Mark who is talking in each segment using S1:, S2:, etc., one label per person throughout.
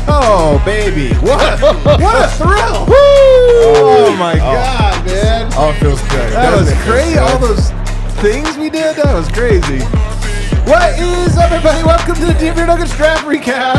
S1: Oh, baby. What a thrill.
S2: Woo!
S1: Oh, my God, man.
S2: Oh, it feels good.
S1: That was crazy. All those things we did, that was crazy. What is up, everybody? Welcome to the Denver Nuggets Draft Recap.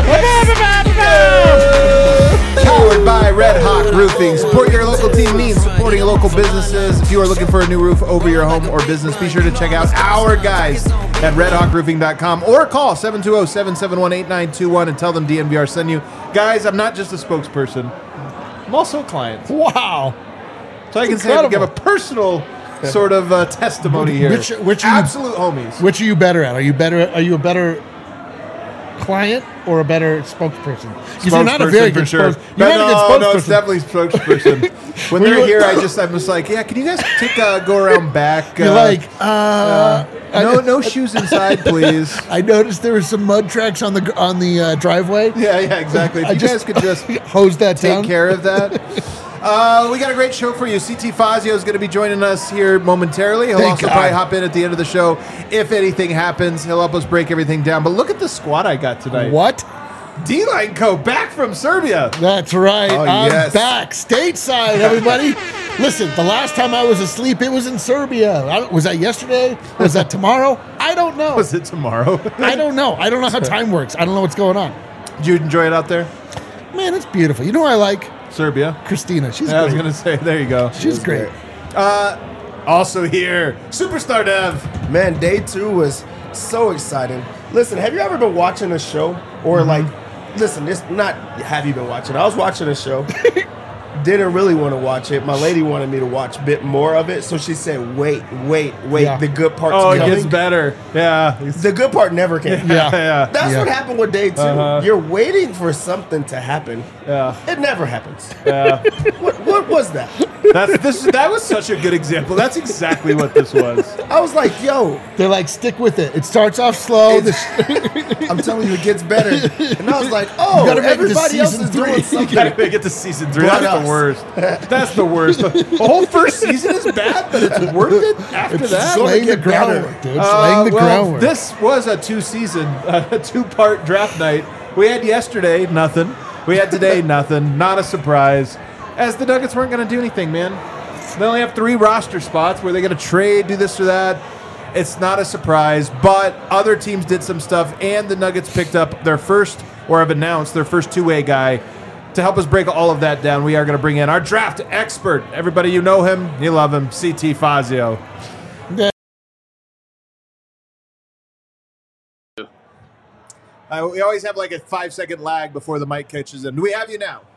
S1: Powered by Red Hawk Roofing. Support your local team needs, supporting local businesses. If you are looking for a new roof over your home or business, be sure to check out our guys at redhawkroofing.com or call 720-771-8921 and tell them DNVR sent you. Guys, I'm not just a spokesperson. I'm also a client.
S2: Wow.
S1: So I can say I can give a personal sort of testimony here.
S2: Which are
S1: absolute homies.
S2: Which are you better at? Are you a better client or a better spokesperson? Because you're not a very good spokesperson.
S1: No, it's definitely spokesperson. When they're here, I'm just like, yeah, can you guys go around back?
S2: You're like,
S1: no shoes inside, please.
S2: I noticed there were some mud tracks on the driveway.
S1: Yeah, exactly. If you guys could just
S2: hose that
S1: take
S2: down.
S1: care of that. We got a great show for you. CT Fazio is going to be joining us here momentarily. He'll also probably hop in at the end of the show. If anything happens, he'll help us break everything down. But look at the squad I got tonight.
S2: What?
S1: D-Line Co. back from Serbia.
S2: That's right.
S1: Oh,
S2: I'm
S1: yes.
S2: back. Stateside, everybody. Listen, the last time I was asleep, it was in Serbia. Was that yesterday? Was that tomorrow? I don't know.
S1: Was it tomorrow?
S2: I don't know. I don't know how time works. I don't know what's going on.
S1: Did you enjoy it out there?
S2: Man, it's beautiful. You know who I like?
S1: Serbia.
S2: Christina. She's great.
S1: I was going to say, there you go.
S2: She's great.
S1: Also here, Superstar Dev.
S3: Man, day 2 was so exciting. Listen, have you ever been watching a show or listen, this not have you been watching? I was watching a show. Didn't really want to watch it. My lady wanted me to watch a bit more of it, so she said, wait.
S2: Yeah.
S3: The good part's
S1: Oh, it
S3: coming.
S1: gets better. Yeah.
S3: The good part never came.
S1: Yeah.
S3: That's what happened with day 2. You're waiting for something to happen.
S1: Yeah.
S3: It never happens.
S1: Yeah.
S3: What was that?
S1: That was such a good example. That's exactly what this was.
S3: I was like, yo.
S2: They're like, stick with it. It starts off slow.
S3: I'm telling you, it gets better. And I was like, oh, everybody else is doing something.
S1: You gotta make it to season 3. That's the worst. That's the worst. The whole first season is bad, but it's worth it after that.
S2: Laying the groundwork, dude. Laying the groundwork.
S1: This was a 2-part draft night. We had yesterday, nothing. We had today, nothing. Not a surprise. As the Nuggets weren't going to do anything, man. They only have 3 roster spots. Were they going to trade, do this or that? It's not a surprise, but other teams did some stuff, and the Nuggets picked up their first, or have announced their first two-way guy. To help us break all of that down, we are going to bring in our draft expert. Everybody, you know him, you love him, CT Fazio.
S2: Yeah.
S1: We always have like a 5-second lag before the mic catches in. Do we have you now?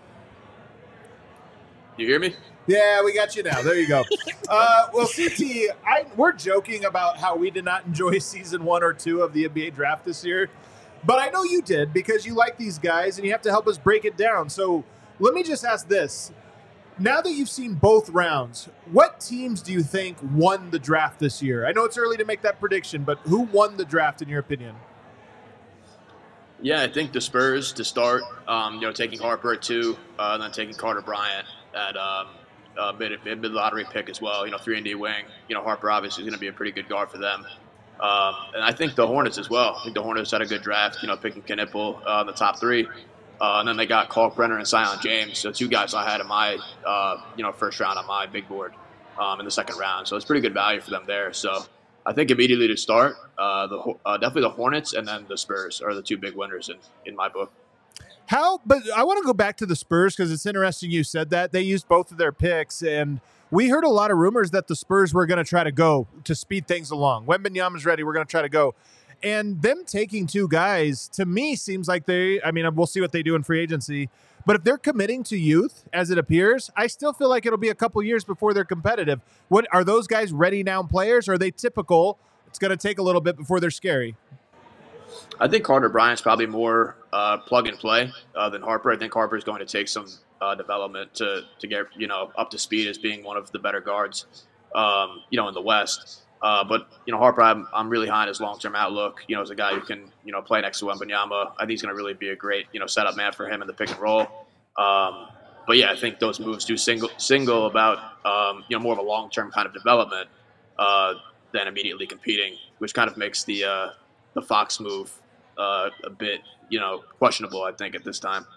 S4: You hear me?
S1: Yeah, we got you now. There you go. Well, CT, we're joking about how we did not enjoy season 1 or 2 of the NBA draft this year. But I know you did because you like these guys and you have to help us break it down. So let me just ask this. Now that you've seen both rounds, what teams do you think won the draft this year? I know it's early to make that prediction, but who won the draft in your opinion?
S4: Yeah, I think the Spurs to start, taking Harper at 2, and then taking Carter Bryant at mid-lottery pick as well, 3-and-D wing. Harper obviously is going to be a pretty good guard for them. And I think the Hornets as well. I think the Hornets had a good draft, picking Knipple in the top 3. And then they got Kalkbrenner and Zion James. So 2 guys I had in my, first round on my big board in the second round. So it's pretty good value for them there. So I think immediately to start, definitely the Hornets and then the Spurs are the 2 big winners in my book.
S1: But I want to go back to the Spurs because it's interesting you said that. They used both of their picks, and we heard a lot of rumors that the Spurs were going to try to go to speed things along. Wembanyama's ready, we're going to try to go. And them taking 2 guys, to me, seems like we'll see what they do in free agency. But if they're committing to youth, as it appears, I still feel like it'll be a couple years before they're competitive. What are those guys ready now players? Or are they typical? It's going to take a little bit before they're scary.
S4: I think Carter Bryant's probably more plug and play than Harper. I think Harper's going to take some development to get up to speed as being one of the better guards, in the West. But Harper, I'm really high on his long-term outlook. As a guy who can play next to Wembanyama, I think he's going to really be a great setup man for him in the pick and roll. But yeah, I think those moves do single about more of a long-term kind of development than immediately competing, which kind of makes the Fox move a bit questionable, I think, at this time.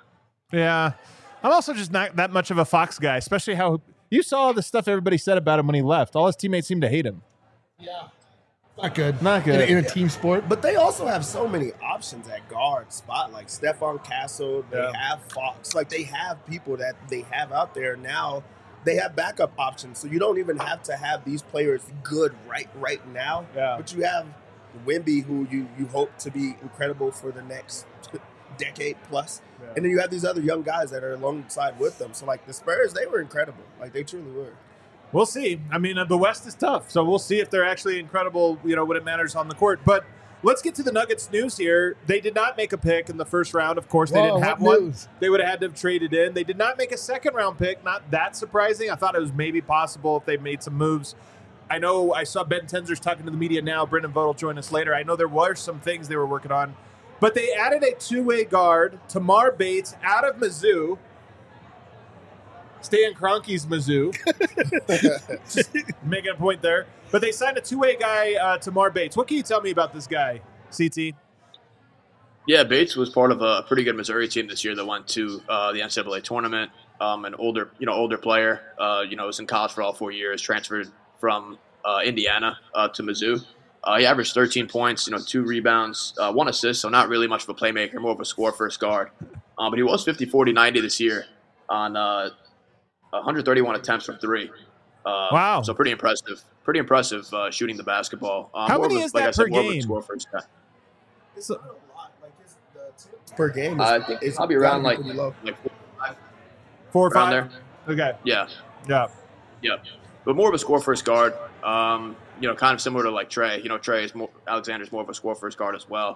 S1: Yeah. I'm also just not that much of a Fox guy, especially how you saw the stuff everybody said about him when he left. All his teammates seemed to hate him.
S2: Yeah. Not good.
S1: Not good.
S2: In a team sport.
S3: But they also have so many options at guard spot, like Stephon Castle. They have Fox. Like, they have people that they have out there now. They have backup options, so you don't even have to have these players good right now.
S1: Yeah.
S3: But you have Wemby, who you hope to be incredible for the next decade plus. Yeah. And then you have these other young guys that are alongside with them. So, like, the Spurs, they were incredible. Like, they truly were.
S1: We'll see. I mean, the West is tough, so we'll see if they're actually incredible, when it matters on the court. But let's get to the Nuggets news here. They did not make a pick in the first round. Of course, they didn't have one. They would have had to have traded in. They did not make a second-round pick. Not that surprising. I thought it was maybe possible if they made some moves. I know I saw Ben Tenzer's talking to the media now. Brendan Vogt will join us later. I know there were some things they were working on. But they added a two-way guard, Tamar Bates, out of Mizzou. Stan Kroenke's Mizzou. Just making a point there. But they signed a two-way guy, Tamar Bates. What can you tell me about this guy, CT?
S4: Yeah, Bates was part of a pretty good Missouri team this year that went to the NCAA tournament. An older player. Was in college for all 4 years. Transferred from Indiana to Mizzou. He averaged 13 points, 2 rebounds, 1 assist. So not really much of a playmaker, more of a score-first guard. But he was 50, 40, 90 this year on 131 attempts from 3.
S1: Wow!
S4: So pretty impressive. Pretty impressive shooting the basketball.
S1: How many is that per game?
S3: It's a lot. Like per game.
S4: I think it's probably around like 4
S1: or 5.
S4: Around there.
S1: Okay.
S4: Yeah.
S1: Yeah.
S4: But more of a score-first guard. Kind of similar to like Trey. Alexander's more of a score-first guard as well.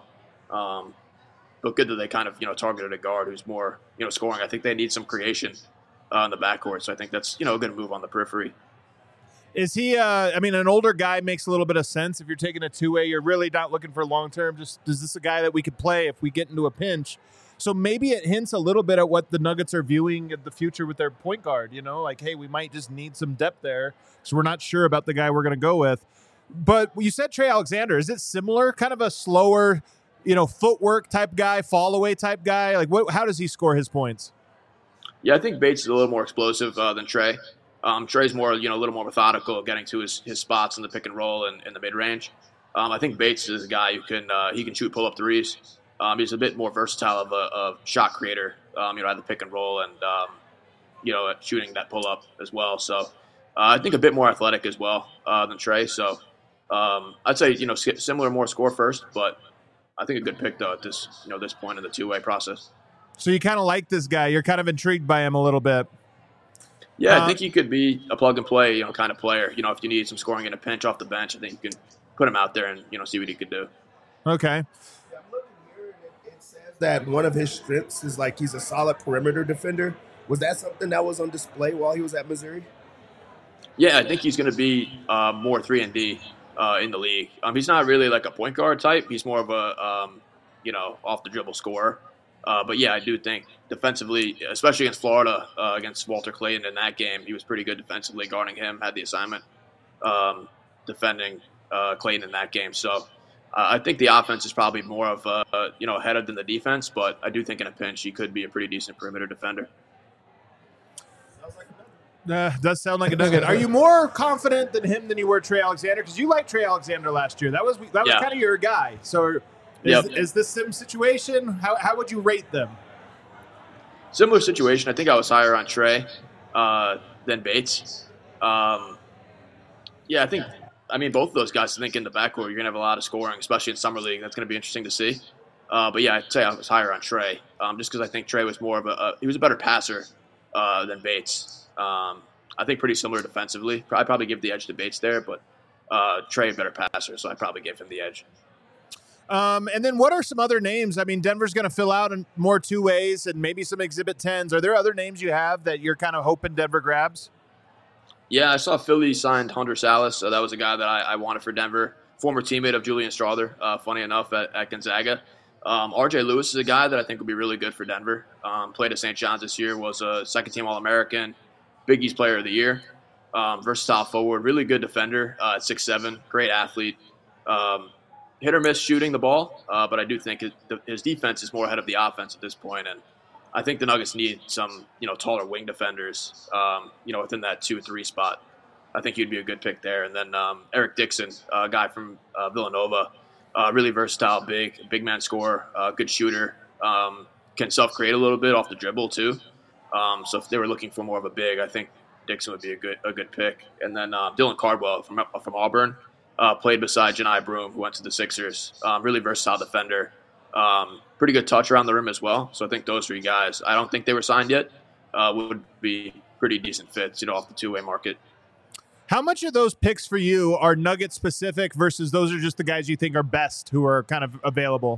S4: But good that they kind of targeted a guard who's more scoring. I think they need some creation in the backcourt, so I think that's a good move on the periphery.
S1: Is he? An older guy makes a little bit of sense. If you're taking a two-way, you're really not looking for long term. Just is this a guy that we could play if we get into a pinch? So maybe it hints a little bit at what the Nuggets are viewing in the future with their point guard. Like, hey, we might just need some depth there, so we're not sure about the guy we're going to go with. But you said Trey Alexander. Is it similar? Kind of a slower, footwork type guy, fall away type guy. Like, how does he score his points?
S4: Yeah, I think Bates is a little more explosive than Trey. Trey's more, a little more methodical, getting to his spots in the pick and roll and in the mid range. I think Bates is a guy who can shoot pull up threes. He's a bit more versatile of a shot creator. At the pick and roll and at shooting that pull up as well. So I think a bit more athletic as well than Trey. So I'd say similar, more score first, but I think a good pick though at this this point in the two-way process.
S1: So you kind of like this guy. You're kind of intrigued by him a little bit.
S4: Yeah, I think he could be a plug-and-play, kind of player. If you need some scoring in a pinch off the bench, I think you can put him out there and, see what he could do.
S1: Okay.
S3: Yeah, I'm looking here, and it says that one of his strengths is, like, he's a solid perimeter defender. Was that something that was on display while he was at Missouri?
S4: Yeah, I think he's going to be more 3-and-D in the league. He's not really like a point guard type. He's more of a, off-the-dribble scorer. But, yeah, I do think defensively, especially against Florida, against Walter Clayton in that game, he was pretty good defensively guarding him, had the assignment defending Clayton in that game. So I think the offense is probably more of, ahead of than the defense, but I do think in a pinch he could be a pretty decent perimeter defender.
S1: Does sound like a Nugget. Are you more confident than him than you were Trey Alexander? Because you liked Trey Alexander last year. That was kind of your guy. So is this sim situation? How would you rate them?
S4: Similar situation. I think I was higher on Trey than Bates. I think both of those guys, I think in the backcourt, you're going to have a lot of scoring, especially in Summer League. That's going to be interesting to see. But yeah, I'd say I was higher on Trey just because I think Trey was more of he was a better passer than Bates. I think pretty similar defensively. I'd probably give the edge to Bates there, but Trey a better passer, so I'd probably give him the edge.
S1: And then what are some other names? I mean, Denver's going to fill out in more two ways and maybe some Exhibit 10s. Are there other names you have that you're kind of hoping Denver grabs?
S4: Yeah, I saw Philly signed Hunter Salas. So that was a guy that I wanted for Denver. Former teammate of Julian Strawther, funny enough, at Gonzaga. RJ Lewis is a guy that I think would be really good for Denver. Played at St. John's this year, was a second-team All-American, Big East Player of the Year. Versatile forward, really good defender at 6'7", great athlete. Hit or miss shooting the ball, but I do think his defense is more ahead of the offense at this point, and I think the Nuggets need some, taller wing defenders, within that 2-3 spot. I think he'd be a good pick there. And then Eric Dixon, a guy from Villanova, really versatile, big man scorer, good shooter, can self-create a little bit off the dribble too. So if they were looking for more of a big, I think Dixon would be a good pick. And then Dylan Cardwell from Auburn, played beside Janai Broom, who went to the Sixers. Really versatile defender. Pretty good touch around the rim as well. So I think those 3 guys, I don't think they were signed yet, would be pretty decent fits, off the two-way market.
S1: How much of those picks for you are Nugget specific versus those are just the guys you think are best who are kind of available?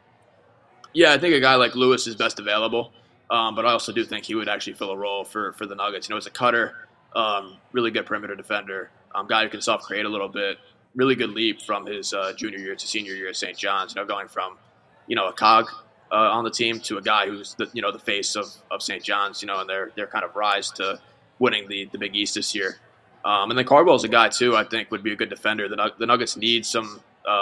S4: Yeah, I think a guy like Lewis is best available, but I also do think he would actually fill a role for the Nuggets. As a cutter, really good perimeter defender, guy who can self-create a little bit, really good leap from his junior year to senior year at St. John's, going from, a cog on the team to a guy who's the face of St. John's, and their kind of rise to winning the Big East this year. And then Cardwell's a guy too, I think would be a good defender. The Nuggets need some,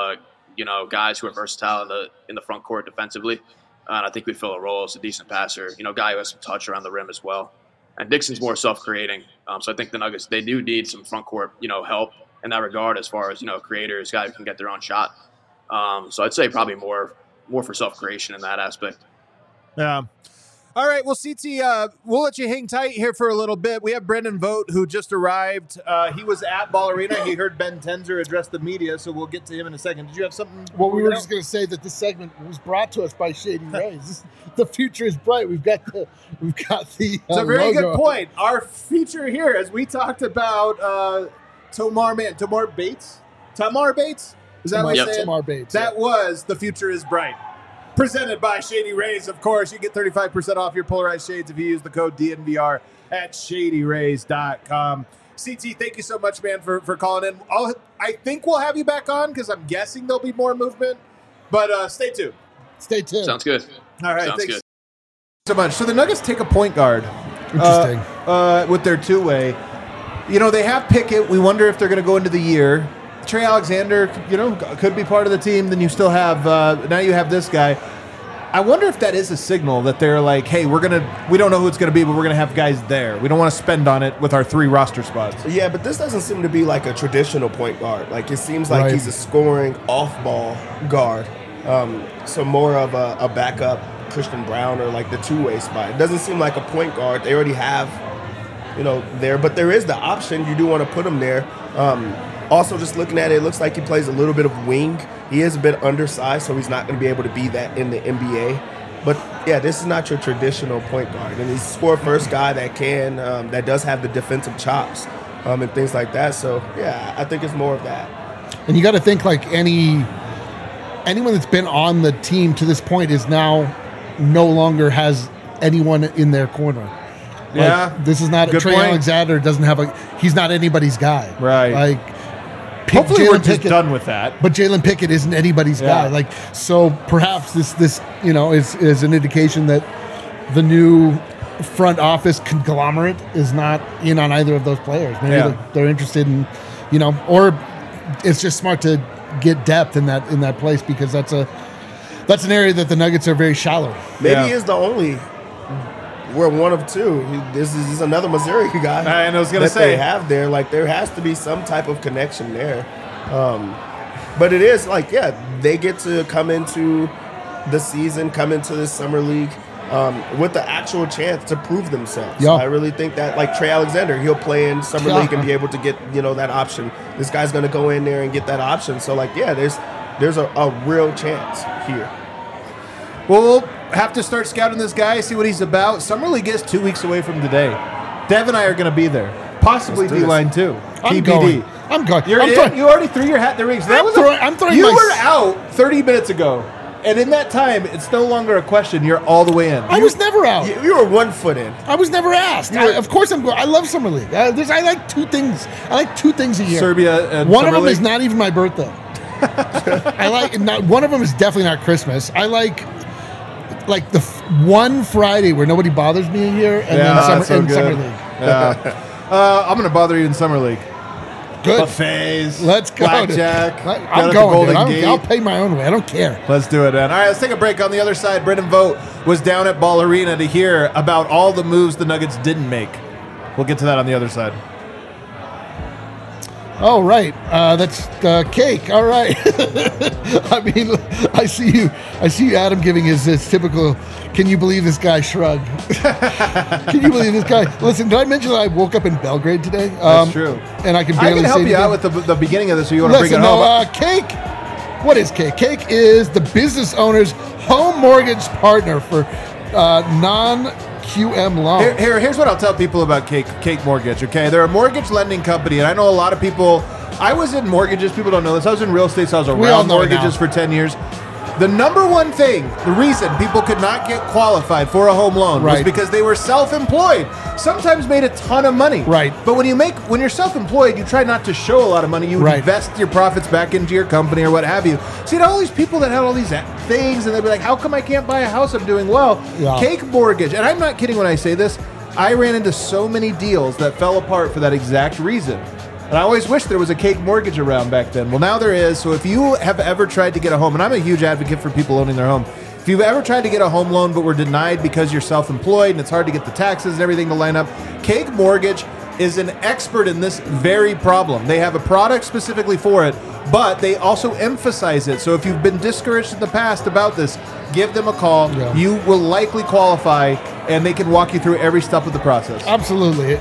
S4: guys who are versatile in the front court defensively. And I think we fill a role as a decent passer, guy who has some touch around the rim as well. And Dixon's more self-creating. So I think the Nuggets, they do need some front court, help in that regard as far as, creators, guys who can get their own shot. So I'd say probably more for self-creation in that aspect.
S1: Yeah. All right, well, CT, we'll let you hang tight here for a little bit. We have Brendan Vogt, who just arrived. He was at Ball Arena. He heard Ben Tenzer address the media, so we'll get to him in a second. Did you have something?
S2: Well, we were just going to say that this segment was brought to us by Shady Rays. The future is bright. We've got the. It's
S1: a very
S2: logo.
S1: good point. Our feature here, as we talked about, Tamar Bates. Tamar Bates. Is that what I said?
S2: Tamar Bates.
S1: That was the future is bright. Presented by Shady Rays, of course. You get 35% off your polarized shades if you use the code DNVR at shadyrays.com. CT, thank you so much, man, for calling in. I think we'll have you back on because I'm guessing there'll be more movement. But stay tuned.
S2: Stay tuned.
S4: Sounds good.
S1: All right.
S4: Sounds
S1: Thanks
S4: good.
S1: so much. So the Nuggets take a point guard.
S2: Interesting.
S1: With their two-way. They have Pickett. We wonder if they're going to go into the year. Trey Alexander, could be part of the team. Then you still have now you have this guy. I wonder if that is a signal that they're like, hey, we don't know who it's going to be, but we're going to have guys there. We don't want to spend on it with our 3 roster spots.
S3: Yeah, but this doesn't seem to be like a traditional point guard. Like it seems like he's a scoring off-ball guard. So more of a backup Christian Brown or like the two-way spot. It doesn't seem like a point guard. They already have, there, but there is the option. You do want to put him there. Also, just looking at it, it looks like he plays a little bit of wing. He is a bit undersized, so he's not going to be able to be that in the NBA. But, yeah, this is not your traditional point guard. And he's a score-first guy that does have the defensive chops and things like that. So, yeah, I think it's more of that.
S2: And you got to think like anyone that's been on the team to this point is now no longer has anyone in their corner.
S1: Yeah.
S2: This is not Trey Alexander he's not anybody's guy.
S1: Right. Hopefully we're just done with that.
S2: But Jalen Pickett isn't anybody's guy. So perhaps this is an indication that the new front office conglomerate is not in on either of those players. Maybe they're interested in, or it's just smart to get depth in that place because that's an area that the Nuggets are very shallow.
S3: Maybe he is the only. We're one of 2. This is another Missouri guy.
S1: I was going to say
S3: they have there. Like there has to be some type of connection there. But it is like they get to come into the season, come into the summer league with the actual chance to prove themselves.
S2: Yeah.
S3: I really think that like Trey Alexander, he'll play in summer league and be able to get that option. This guy's going to go in there and get that option. So like there's a real chance here.
S1: Well, we'll have to start scouting this guy, see what he's about. Summer League is 2 weeks away from today. Dev and I are going to be there. Possibly D-line too.
S2: I'm
S1: TBD.
S2: going. I'm going.
S1: You already threw your hat in the ring. So you were out 30 minutes ago. And in that time, it's no longer a question. You're all the way in.
S2: I was never out.
S3: You were 1 foot in.
S2: I was never asked. Of course I'm going. I love Summer League. I like 2 things. I like 2 things a year.
S1: Serbia and
S2: one
S1: Summer
S2: of them
S1: League?
S2: is not even my birthday. One of them is definitely not Christmas. I like the one Friday where nobody bothers me a year, and then Summer League.
S1: Yeah. I'm going to bother you in Summer League.
S2: Good.
S1: Buffets.
S2: Let's go.
S1: Blackjack.
S2: I'm going. I'll pay my own way. I don't care.
S1: Let's do it, man. All right, let's take a break. On the other side, Brendan Vogt was down at Ball Arena to hear about all the moves the Nuggets didn't make. We'll get to that on the other side.
S2: Oh, right. That's cake. All right. I mean, I see you, Adam, giving his typical, can you believe this guy shrug? Can you believe this guy? Listen, did I mention that I woke up in Belgrade today?
S1: That's true.
S2: And I can barely
S1: help
S2: say
S1: you out with the beginning of this, so you want to bring it home.
S2: Cake. What is Cake? Cake is the business owner's home mortgage partner for non-QM loans.
S1: Here's what I'll tell people about Cake Mortgage, okay? They're a mortgage lending company, and I know a lot of people. I was in mortgages. People don't know this. I was in real estate, so I was around mortgages for 10 years. The number one thing, the reason people could not get qualified for a home loan was because they were self-employed. Sometimes made a ton of money.
S2: Right.
S1: But when you're self-employed, you try not to show a lot of money. You invest your profits back into your company or what have you. So you had all these people that had all these things, and they'd be like, how come I can't buy a house? I'm doing well. Yeah. Cake Mortgage, and I'm not kidding when I say this, I ran into so many deals that fell apart for that exact reason. And I always wish there was a Cake Mortgage around back then. Well, now there is. So if you have ever tried to get a home, and I'm a huge advocate for people owning their home, if you've ever tried to get a home loan but were denied because you're self-employed and it's hard to get the taxes and everything to line up, Cake Mortgage is an expert in this very problem. They have a product specifically for it, but they also emphasize it. So if you've been discouraged in the past about this, give them a call. Yeah. You will likely qualify, and they can walk you through every step of the process.
S2: Absolutely.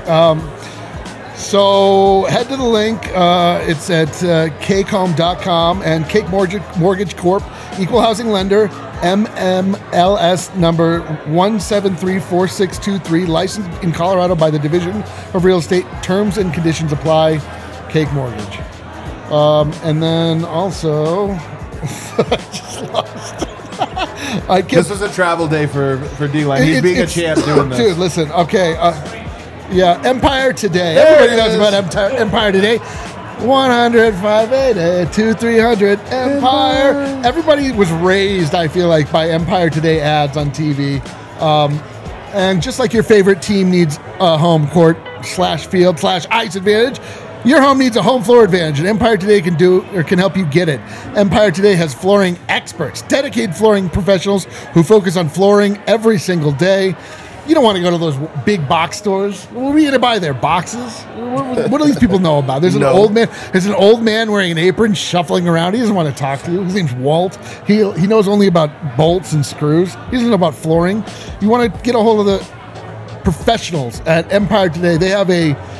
S2: So head to the link. It's at cakehome.com, and Cake Mortgage Corp, equal housing lender, MMLS number 1734623, licensed in Colorado by the Division of Real Estate. Terms and conditions apply. Cake Mortgage. And then also, I just lost.
S1: This was a travel day for D-Line. He's being a champ doing this.
S2: Dude, listen. Okay. Yeah, Empire Today. Everybody knows about Empire Today. 100-580 2300 Empire. Everybody was raised, I feel like, by Empire Today ads on TV. And just like your favorite team needs a home court /field /ice advantage, your home needs a home floor advantage, and Empire Today can help you get it. Empire Today has flooring experts, dedicated flooring professionals who focus on flooring every single day. You don't want to go to those big box stores. What are you going to buy there? Boxes? What do these people know about? There's an old man. There's an old man wearing an apron, shuffling around. He doesn't want to talk to you. His name's Walt. He knows only about bolts and screws. He doesn't know about flooring. You want to get a hold of the professionals at Empire Today. They have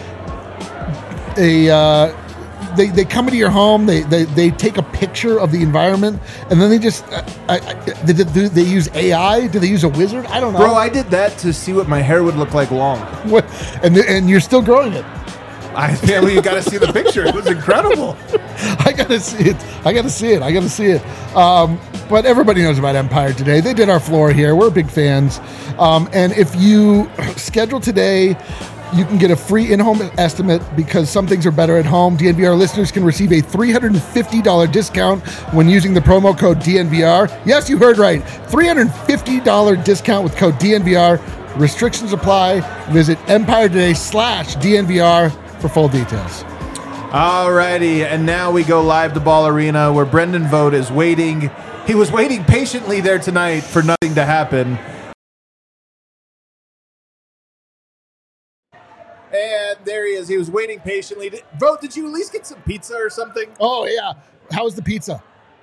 S2: they come into your home, they take a picture of the environment, and then they just they use AI? Do they use a wizard? I don't know.
S1: Bro, I did that to see what my hair would look like long.
S2: What? And you're still growing it.
S1: You got to see the picture. It was incredible.
S2: I got to see it. But everybody knows about Empire Today. They did our floor here. We're big fans. And if you schedule today, you can get a free in-home estimate because some things are better at home. DNVR listeners can receive a $350 discount when using the promo code DNVR. Yes, you heard right. $350 discount with code DNVR. Restrictions apply. Visit Empire Today /DNVR for full details.
S1: Alrighty, and now we go live to Ball Arena where Brendan Vogt is waiting. He was waiting patiently there tonight for nothing to happen. And there he is. He was waiting patiently. Vogt, did you at least get some pizza or something?
S2: Oh, yeah. How was the pizza?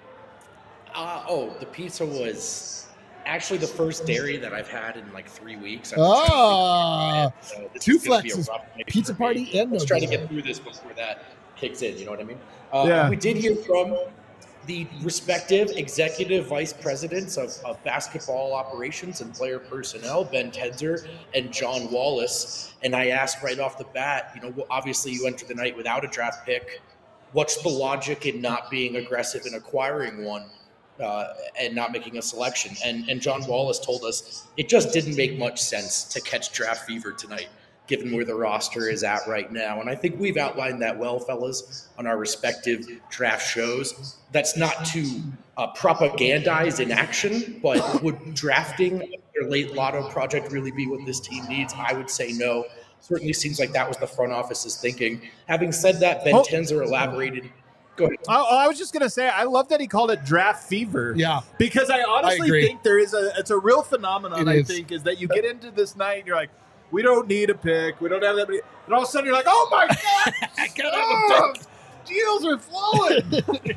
S5: The pizza was actually the first dairy that I've had in like 3 weeks.
S2: So two flexes, pizza party, and
S5: let's try to get through this before that kicks in. You know what I mean?
S1: Yeah.
S5: We did hear from the respective executive vice presidents of basketball operations and player personnel, Ben Tenzer and John Wallace. And I asked right off the bat, obviously you enter the night without a draft pick. What's the logic in not being aggressive in acquiring one and not making a selection? And John Wallace told us it just didn't make much sense to catch draft fever tonight, given where the roster is at right now. And I think we've outlined that well, fellas, on our respective draft shows. That's not to propagandize inaction, but would drafting their late lotto project really be what this team needs? I would say no. Certainly seems like that was the front office's thinking. Having said that, Ben Tenzer elaborated. Go ahead.
S1: I was just gonna say, I love that he called it draft fever.
S2: Yeah.
S1: because I honestly
S2: agree.
S1: think it's a real phenomenon.
S2: It
S1: I
S2: is.
S1: think is that you get into this night, and you're like, we don't need a pick, we don't have that many, and all of a sudden you're like, oh my god,
S2: I gotta have a pick.
S1: deals are flowing.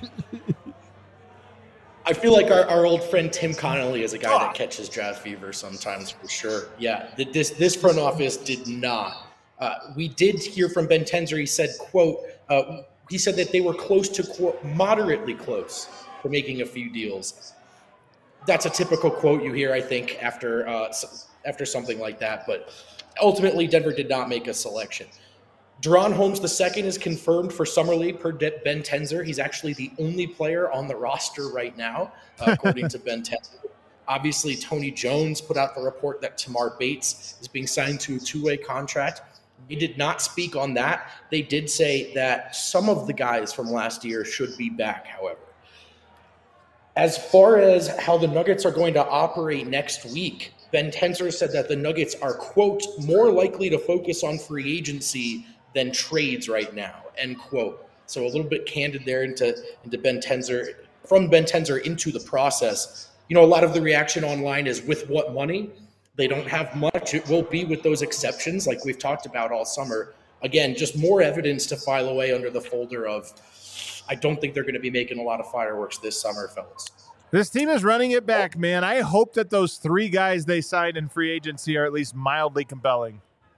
S5: I feel like our old friend Tim Connolly is a guy that catches draft fever sometimes, for sure. Yeah, this front office did not. We did hear from Ben Tenzer. He said, quote, he said that they were close to, quote, moderately close for making a few deals. That's a typical quote you hear, I think, after something like that. But ultimately, Denver did not make a selection. Deron Holmes II is confirmed for Summer League per Ben Tenzer. He's actually the only player on the roster right now, according to Ben Tenzer. Obviously, Tony Jones put out the report that Tamar Bates is being signed to a two-way contract. He did not speak on that. They did say that some of the guys from last year should be back, however. As far as how the Nuggets are going to operate next week, Ben Tenzer said that the Nuggets are, quote, more likely to focus on free agency than trades right now, end quote. So a little bit candid there into Ben Tenzer, from Ben Tenzer into the process. You know, a lot of the reaction online is with what money? They don't have much. It will be with those exceptions like we've talked about all summer. Again, just more evidence to file away under the folder of, I don't think they're going to be making a lot of fireworks this summer, fellas.
S1: This team is running it back, man. I hope that those three guys they signed in free agency are at least mildly compelling.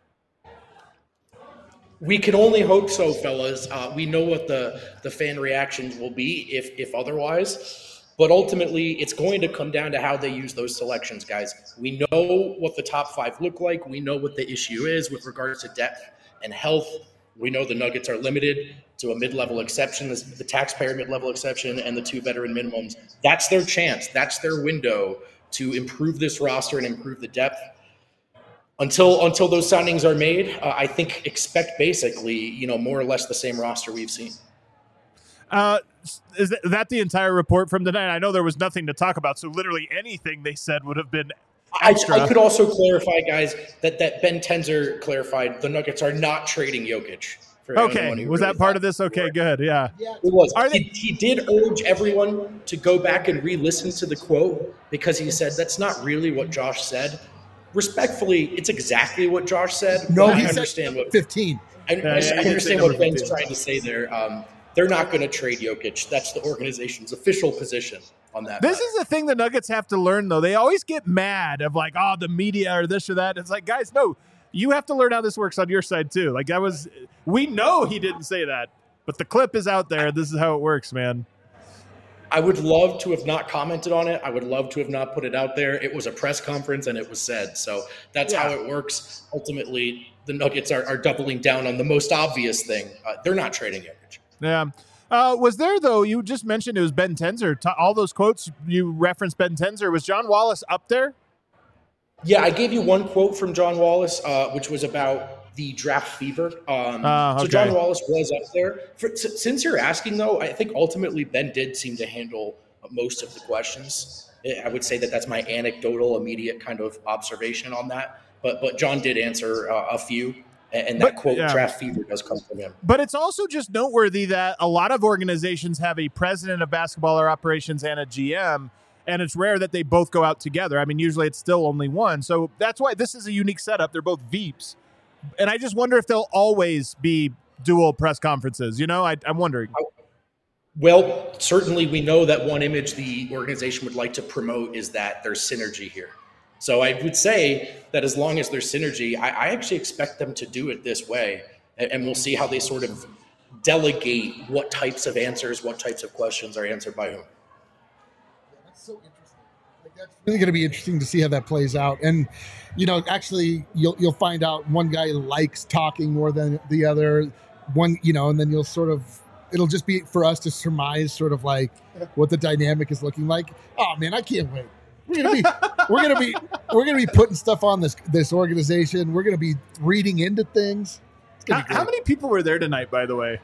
S5: We can only hope so, fellas. We know what the fan reactions will be if otherwise. But ultimately, it's going to come down to how they use those selections, guys. We know what the top five look like. We know what the issue is with regards to depth and health. We know the Nuggets are limited to a mid-level exception, the taxpayer mid-level exception, and the two veteran minimums. That's their chance. That's their window to improve this roster and improve the depth. Until those signings are made, I think expect basically, more or less the same roster we've seen.
S1: Is that the entire report from tonight? I know there was nothing to talk about, so literally anything they said would have been extra.
S5: I could also clarify, guys, that Ben Tenzer clarified the Nuggets are not trading Jokic.
S1: Okay, was that part of this? Okay, good, yeah.
S5: It was. He did urge everyone to go back and re-listen to the quote because he said that's not really what Josh said. Respectfully, it's exactly what Josh said.
S2: No,
S5: I
S2: he
S5: understand
S2: said
S5: what
S2: 15.
S5: I understand what Ben's trying to say there. They're not going to trade Jokic. That's the organization's official position on that.
S1: This is the thing the Nuggets have to learn, though. They always get mad of like, oh, the media or this or that. It's like, guys, no, you have to learn how this works on your side too. Like we know he didn't say that, but the clip is out there. This is how it works, man.
S5: I would love to have not commented on it. I would love to have not put it out there. It was a press conference and it was said. So that's how it works. Ultimately, the Nuggets are doubling down on the most obvious thing. They're not trading Jokic.
S1: Yeah. Was there, though, you just mentioned it was Ben Tenzer. All those quotes, you referenced Ben Tenzer. Was John Wallace up there?
S5: Yeah, I gave you one quote from John Wallace, which was about the draft fever.
S1: Okay.
S5: So John Wallace was up there. Since you're asking, though, I think ultimately Ben did seem to handle most of the questions. I would say that's my anecdotal, immediate kind of observation on that. But John did answer a few. And that quote, draft fever, does come from him.
S1: But it's also just noteworthy that a lot of organizations have a president of basketball or operations and a GM, and it's rare that they both go out together. I mean, usually it's still only one. So that's why this is a unique setup. They're both VEEPs. And I just wonder if they'll always be dual press conferences. I'm wondering.
S5: Well, certainly we know that one image the organization would like to promote is that there's synergy here. So I would say that as long as there's synergy, I actually expect them to do it this way. And we'll see how they sort of delegate what types of answers, what types of questions are answered by whom.
S2: That's so interesting. That's really going to be interesting to see how that plays out. And, actually you'll find out one guy likes talking more than the other one, and then it'll just be for us to surmise sort of like what the dynamic is looking like. Oh man, I can't wait. We're gonna be putting stuff on this organization. We're gonna be reading into things.
S1: How many people were there tonight, by the way?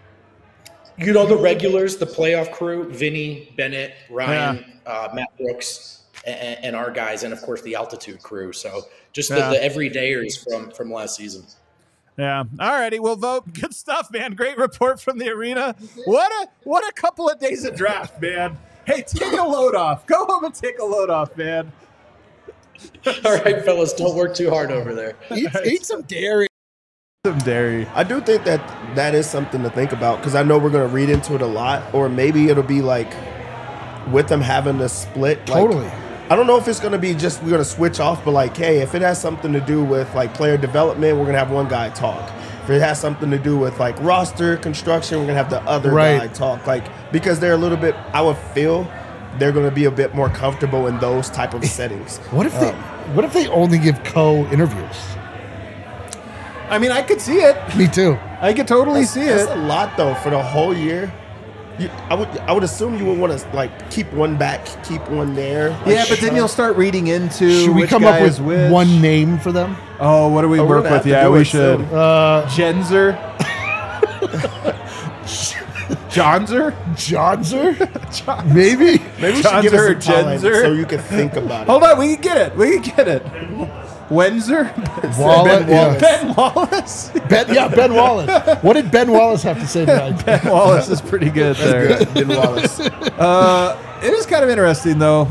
S5: The regulars, the playoff crew: Vinny, Bennett, Ryan, Matt Brooks, and our guys, and of course the altitude crew. So just the everydayers from last season.
S1: Yeah. All righty. We'll vote. Good stuff, man. Great report from the arena. What a couple of days of draft, man. Hey, take a load off. Go home and take a load off, man.
S5: All right, fellas, don't work too hard over there.
S2: Eat some dairy.
S1: Some dairy.
S3: I do think that is something to think about because I know we're going to read into it a lot, or maybe it'll be like with them having to split. Like,
S2: Totally.
S3: I don't know if it's going to be just we're going to switch off, but like, hey, if it has something to do with like player development, we're going to have one guy talk. If it has something to do with like roster construction, we're going to have the other guy talk. Like, because they're a little bit, I would feel they're going to be a bit more comfortable in those type of settings.
S2: What if they only give co-interviews?
S1: I mean, I could see it.
S2: Me too.
S1: I could totally see it.
S3: That's a lot though for the whole year. I would assume you would want to like keep one back, keep one there. Like,
S1: Yeah, but then you'll start reading into
S2: Should we
S1: which
S2: come
S1: guy
S2: up with
S1: is which.
S2: one name for them?
S1: Oh, what do we
S3: we're
S1: work
S3: gonna
S1: with?
S3: have to
S1: Yeah,
S3: do
S1: we
S3: it
S1: should.
S3: soon.
S1: Genzer. Johnzer?
S2: Johnzer? Maybe.
S3: Maybe we should give
S1: Johnzer,
S3: us some time
S1: Genzer.
S3: so you can think about it.
S1: Hold on, we can get it. Wenzer?
S2: Wallace.
S1: Ben Wallace?
S2: Ben Wallace. What did Ben Wallace have to say tonight?
S1: Ben Wallace is pretty good there.
S3: Good, Ben Wallace.
S1: It is kind of interesting, though.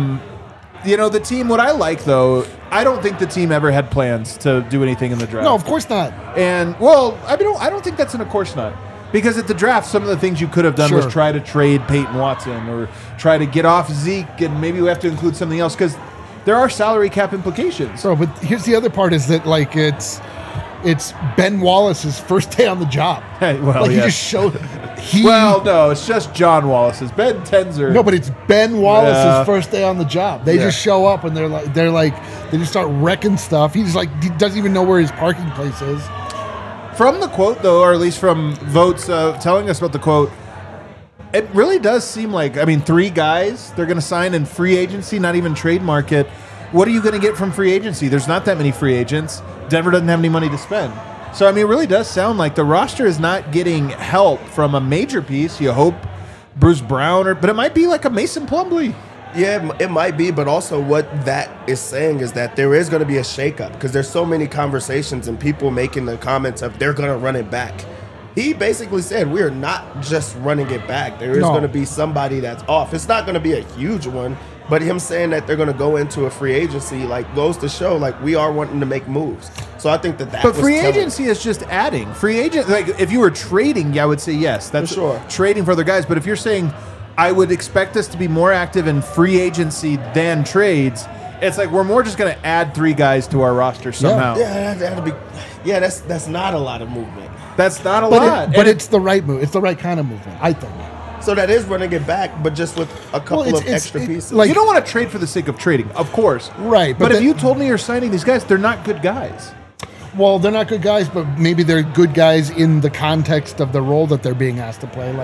S1: The team, what I like, though, I don't think the team ever had plans to do anything in the draft.
S2: No, of course not.
S1: And, well, I don't think that's of course not. Because at the draft, some of the things you could have done was try to trade Peyton Watson or try to get off Zeke, and maybe we have to include something else because there are salary cap implications.
S2: So, but here's the other part is that, like, it's Ben Wallace's first day on the job.
S1: Hey, well,
S2: like,
S1: yeah.
S2: he just showed...
S1: Well, no, it's just John Wallace's. Ben Tenzer.
S2: No, but it's Ben Wallace's
S1: Yeah.
S2: first day on the job. They just show up and they just start wrecking stuff. He doesn't even know where his parking place is.
S1: From the quote, though, or at least from votes telling us about the quote, it really does seem like, 3 guys they're going to sign in free agency, not even trade market. What are you going to get from free agency? There's not that many free agents. Denver doesn't have any money to spend. So, it really does sound like the roster is not getting help from a major piece. You hope Bruce Brown, but it might be like a Mason Plumlee.
S3: Yeah, it might be, but also what that is saying is that there is going to be a shakeup because there's so many conversations and people making the comments of they're going to run it back. He basically said we're not just running it back. There is going to be somebody that's off. It's not going to be a huge one, but him saying that they're going to go into a free agency goes to show we are wanting to make moves. So I think that
S1: But free agency is just adding. Free agent, if you were trading, I would say yes. That's
S3: For sure.
S1: Trading for other guys. But if you're saying I would expect us to be more active in free agency than trades, it's like we're more just going to add 3 guys to our roster somehow.
S3: Yeah, that'll be. Yeah, that's not a lot of movement.
S1: That's not a lot.
S2: But it's the right move. It's the right kind of movement, I think.
S3: So that is running it back, but just with a couple of extra pieces.
S1: You don't want to trade for the sake of trading, of course.
S2: Right.
S1: But if you told me you're signing these guys, they're not good guys.
S2: Well, they're not good guys, but maybe they're good guys in the context of the role that they're being asked to play.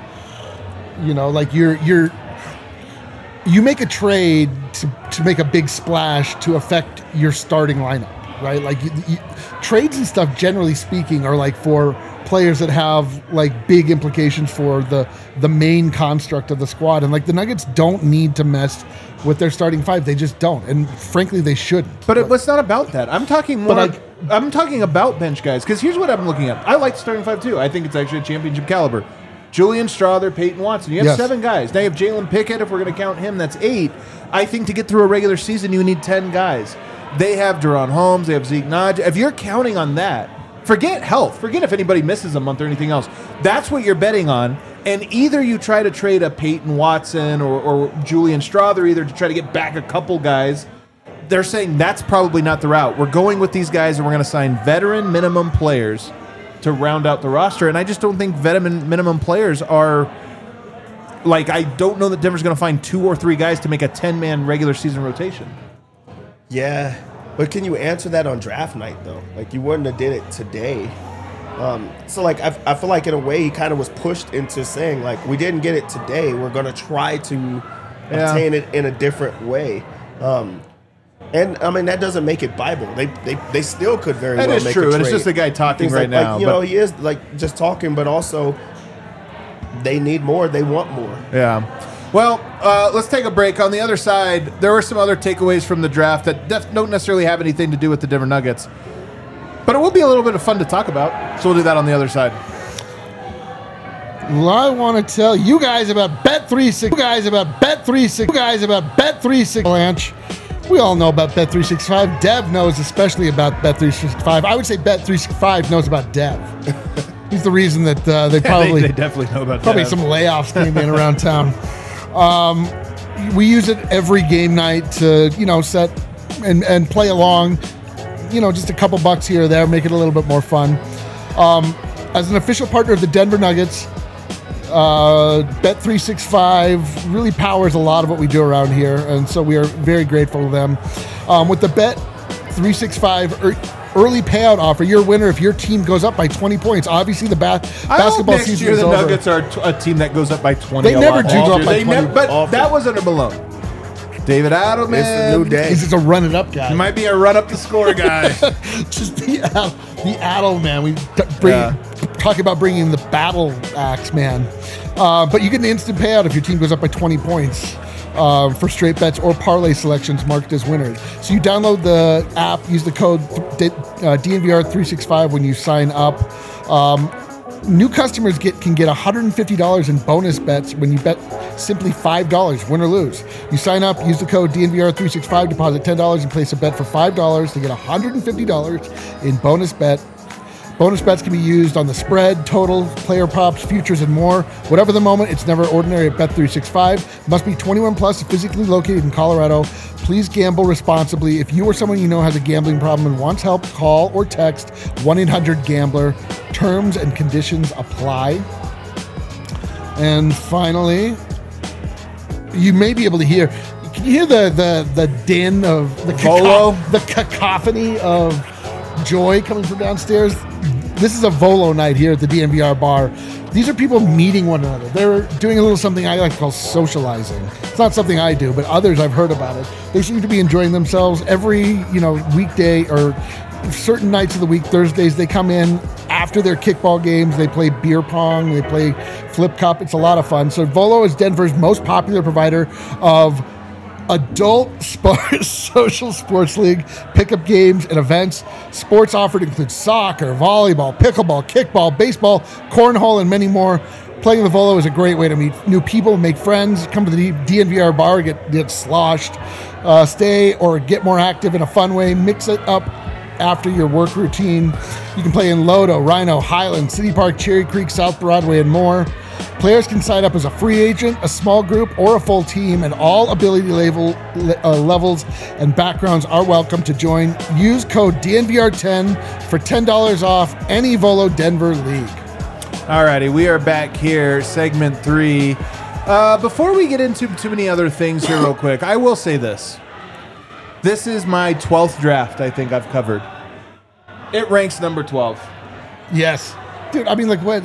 S2: You make a trade to make a big splash to affect your starting lineup, right? Trades and stuff, generally speaking, are for players that have big implications for the main construct of the squad. And the Nuggets don't need to mess with their starting 5. They just don't. And frankly, they shouldn't.
S1: But it's not about that. I'm talking more. I'm talking about bench guys because here's what I'm looking at. I like the starting 5 too. I think it's actually a championship caliber. Julian Strother, Peyton Watson. You have 7 guys. Now you have Jalen Pickett. If we're going to count him, that's 8. I think to get through a regular season, you need 10 guys. They have De'Ron Holmes. They have Zeke Naj. If you're counting on that, forget health. Forget if anybody misses a month or anything else. That's what you're betting on. And either you try to trade a Peyton Watson or Julian Strother either to try to get back a couple guys. They're saying that's probably not the route. We're going with these guys and we're going to sign veteran minimum players to round out the roster. And I just don't think veteran minimum players are I don't know that Denver's going to find 2 or 3 guys to make a 10-man regular season rotation.
S3: Yeah, but can you answer that on draft night though? You wouldn't have did it today. So I feel like in a way he kind of was pushed into saying we didn't get it today. We're going to try to obtain it in a different way. And that doesn't make it Bible. They still could very well make it. That is true.
S1: And it's just the guy talking right now.
S3: He is just talking, but also they need more. They want more.
S1: Yeah. Well, let's take a break. On the other side, there were some other takeaways from the draft that don't necessarily have anything to do with the Denver Nuggets. But it will be a little bit of fun to talk about, so we'll do that on the other side.
S2: Well, I want to tell you guys about Bet365. You guys about Bet365. Avalanche. We all know about Bet365. Dev knows especially about Bet365. I would say Bet365 knows about Dev. He's the reason that they probably
S1: they definitely know about
S2: probably
S1: Dev.
S2: some layoffs came in around town. We use it every game night to set and play along. Just a couple bucks here or there, make it a little bit more fun. As an official partner of the Denver Nuggets, Bet365 really powers a lot of what we do around here, and so we are very grateful to them. With the Bet365 early payout offer, you're a winner if your team goes up by 20 points. Obviously, the basketball
S1: next
S2: season
S1: year
S2: is
S1: the
S2: over.
S1: Nuggets are a team that goes up by 20.
S2: They never do go up by 20.
S1: But that was under Malone. David Adelman.
S3: It's a new day.
S2: He's just a run-it-up guy.
S1: He might be a run-up-the-score guy.
S2: Just the Adel man. We talk about bringing the battle axe man. But you get an instant payout if your team goes up by 20 points for straight bets or parlay selections marked as winners. So you download the app, use the code DNVR365 when you sign up. New customers can get $150 in bonus bets when you bet simply $5, win or lose. You sign up, use the code DNVR365, deposit $10, and place a bet for $5 to get $150 in bonus bet. Bonus bets can be used on the spread, total, player props, futures, and more. Whatever the moment, it's never ordinary at Bet365. Must be 21 plus, physically located in Colorado. Please gamble responsibly. If you or someone you know has a gambling problem and wants help, call or text 1-800-GAMBLER. Terms and conditions apply. And finally, you may be able to hear. Can you hear the din of the cacophony of joy coming from downstairs? This is a Volo night here at the DNVR bar. These are people meeting one another. They're doing a little something I like to call socializing. It's not something I do, but others I've heard about it. They seem to be enjoying themselves every weekday or certain nights of the week. Thursdays they come in after their kickball games. They play beer pong. They play flip cup. It's a lot of fun. So Volo is Denver's most popular provider of adult social sports league pickup games and events. Sports offered include soccer, volleyball, pickleball, kickball, baseball, cornhole, and many more. Playing the Volo is a great way to meet new people, make friends, come to the DNVR bar, get sloshed, stay or get more active in a fun way, mix it up after your work routine. You can play in Lodo, Rhino, Highland, City Park, Cherry Creek, South Broadway, and more. Players can sign up as a free agent, a small group, or a full team, and all ability levels and backgrounds are welcome to join. Use code DNVR10 for $10 off any Volo Denver league.
S1: Alrighty, we are back here, segment 3. Before we get into too many other things here real quick, I will say this. This is my 12th draft I think I've covered. It ranks number 12.
S2: Yes. Dude, I mean, like, what?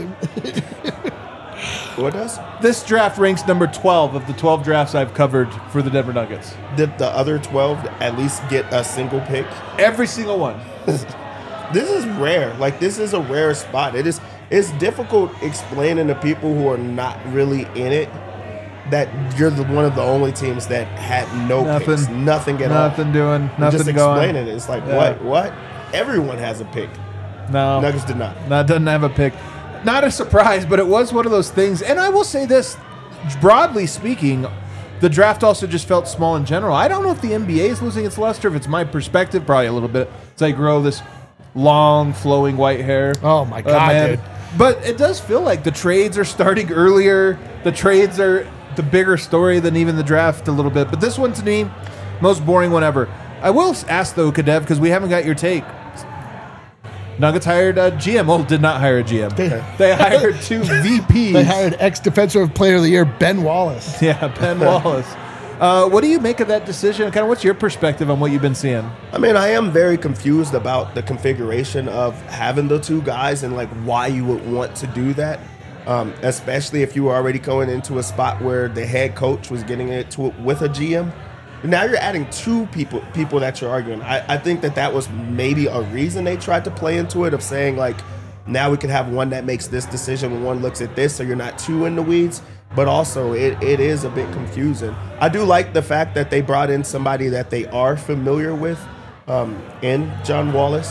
S3: What does?
S1: This draft ranks number 12 of the 12 drafts I've covered for the Denver Nuggets.
S3: Did the other 12 at least get a single pick?
S1: Every single one.
S3: This is rare. Like, this is a rare spot. It's difficult explaining to people who are not really in it that you're one of the only teams that had no picks. Nothing at all.
S1: Nothing doing. Nothing
S3: just
S1: going.
S3: Explaining it. It's like, what? Everyone has a pick.
S1: No.
S3: Nuggets did not.
S1: No, doesn't have a pick. Not a surprise, but it was one of those things. And I will say this, broadly speaking, the draft also just felt small in general. I don't know if the NBA is losing its luster, if it's my perspective, probably a little bit. As I grow this long, flowing white hair.
S2: Oh, my God, dude.
S1: But it does feel like the trades are starting earlier. The trades are the bigger story than even the draft a little bit. But this one, to me, most boring one ever. I will ask, though, Kadev, because we haven't got your take. Nuggets hired a GM. Well, did not hire a GM. They hired 2 VPs.
S2: They hired ex-Defensive Player of the Year, Ben Wallace.
S1: Yeah, Ben Wallace. What do you make of that decision? Kind of what's your perspective on what you've been seeing?
S3: I mean, I am very confused about the configuration of having the 2 guys and like why you would want to do that, especially if you were already going into a spot where the head coach was getting into it with a GM. Now you're adding 2 people that you're arguing. I think that was maybe a reason they tried to play into it of saying like, now we can have one that makes this decision when one looks at this, so you're not too in the weeds. But also, it is a bit confusing. I do like the fact that they brought in somebody that they are familiar with in John Wallace.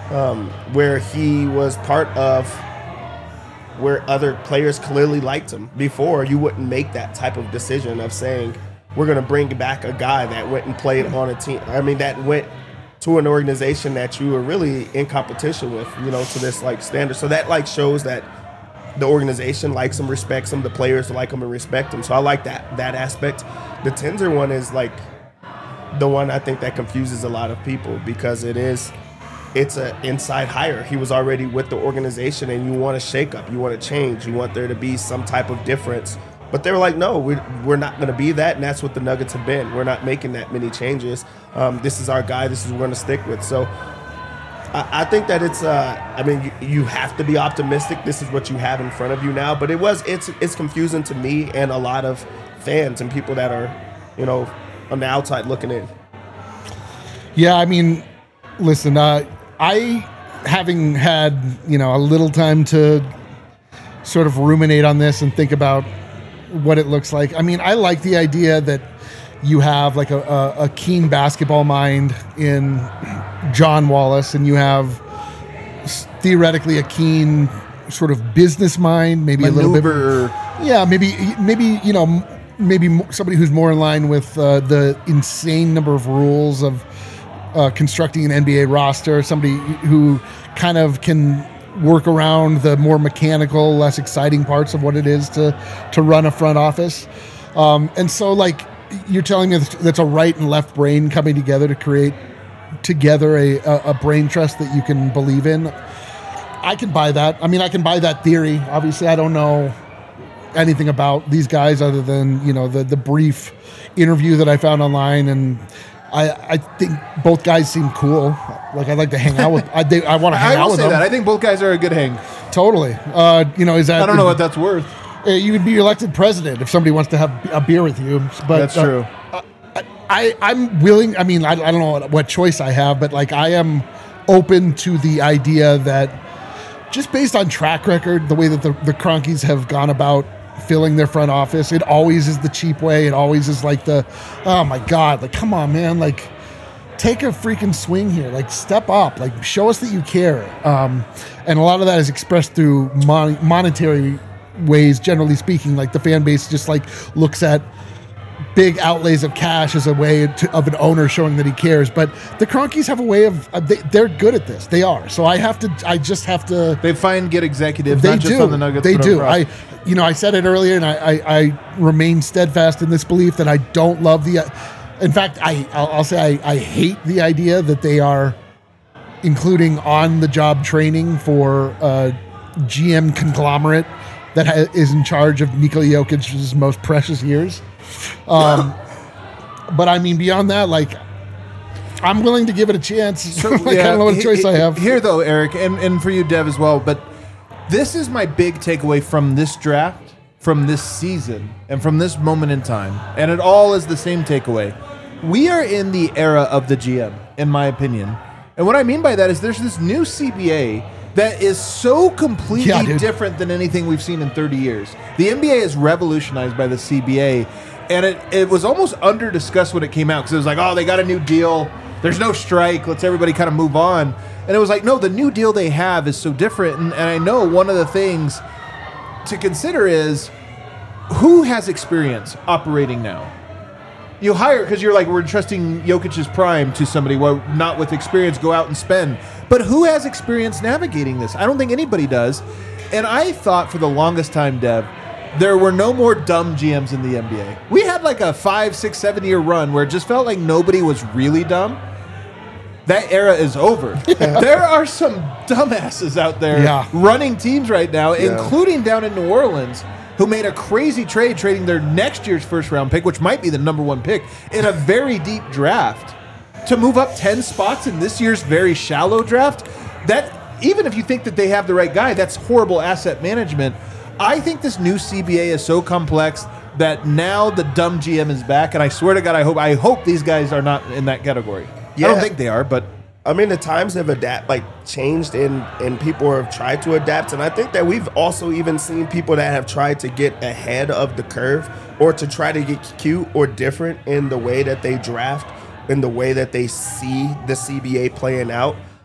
S3: where he was part of where other players clearly liked him. Before, you wouldn't make that type of decision of saying, we're going to bring back a guy that went and played on a team. I mean, that went to an organization that you were really in competition with, to this like standard. So that shows that the organization likes him, respects him, the players like him and respect him. So I like that aspect. The Tenzer one is like the one I think that confuses a lot of people because it's an inside hire. He was already with the organization and you want a shakeup, you want to change, you want there to be some type of difference. But they were like, no, we're not going to be that, and that's what the Nuggets have been. We're not making that many changes. This is our guy. This is what we're going to stick with. So I think that it's you have to be optimistic. This is what you have in front of you now. But it's confusing to me and a lot of fans and people that are, on the outside looking in.
S2: Yeah, I mean, listen, I having had, a little time to sort of ruminate on this and think about what it looks like. I mean, I like the idea that you have like a keen basketball mind in John Wallace, and you have theoretically a keen sort of business mind, maybe a little bit. Yeah, maybe maybe somebody who's more in line with the insane number of rules of constructing an NBA roster. Somebody who kind of can work around the more mechanical, less exciting parts of what it is to run a front office. And so, like, you're telling me that's a right and left brain coming together to create together a brain trust that you can believe in. I can buy that. I mean, I can buy that theory. Obviously, I don't know anything about these guys other than, the brief interview that I found online, and I think both guys seem cool. Like, I'd like to hang out with. I want to hang out with them.
S1: I think both guys are a good hang.
S2: Totally. Is that?
S1: I don't know what that's worth.
S2: You would be elected president if somebody wants to have a beer with you. But
S1: that's true.
S2: I'm willing. I mean, I don't know what choice I have, but like, I am open to the idea that just based on track record, the way that the Kroenkes have gone about filling their front office, it always is the cheap way. It always is like oh my God, like, come on, man, like, take a freaking swing here, like, step up, like, show us that you care. And a lot of that is expressed through monetary ways, generally speaking. Like, the fan base just like looks at big outlays of cash as a way of an owner showing that he cares. But the Kroenkes have a way of they're good at this. They are. So I just have to.
S1: They find good executives.
S2: They
S1: not
S2: do.
S1: Just on the Nuggets.
S2: They do.
S1: Across.
S2: I said it earlier, and I remain steadfast in this belief that I don't love the. In fact, I'll say I hate the idea that they are including on-the-job training for a GM conglomerate that is in charge of Nikola Jokic's most precious years. But I mean, beyond that, like, I'm willing to give it a chance. So, I don't know what choice I have.
S1: Here, though, Eric, and for you, Dev, as well, but this is my big takeaway from this draft, from this season, and from this moment in time, and it all is the same takeaway. We are in the era of the GM, in my opinion. And what I mean by that is there's this new CBA that is so completely different than anything we've seen in 30 years. The NBA is revolutionized by the CBA, and it was almost under-discussed when it came out, because it was like, oh, they got a new deal. There's no strike. Let's everybody kind of move on. And it was like, no, the new deal they have is so different. And I know one of the things to consider is who has experience operating now? You hire, because you're like, we're trusting Jokic's prime to somebody not with experience, go out and spend. But who has experience navigating this? I don't think anybody does. And I thought for the longest time, Dev, there were no more dumb GMs in the NBA. We had like a 5, 6, 7 year run where it just felt like nobody was really dumb. That era is over. There are some dumbasses out there running teams right now, including down in New Orleans, who made a crazy trade, trading their next year's first-round pick, which might be the number 1 pick, in a very deep draft, to move up 10 spots in this year's very shallow draft. That, even if you think that they have the right guy, that's horrible asset management. I think this new CBA is so complex that now the dumb GM is back, and I swear to God, I hope these guys are not in that category. Yeah. I don't think they are, but
S3: I mean, the times have changed, and people have tried to adapt. And I think that we've also even seen people that have tried to get ahead of the curve, or to try to get cute or different in the way that they draft, in the way that they see the CBA playing out.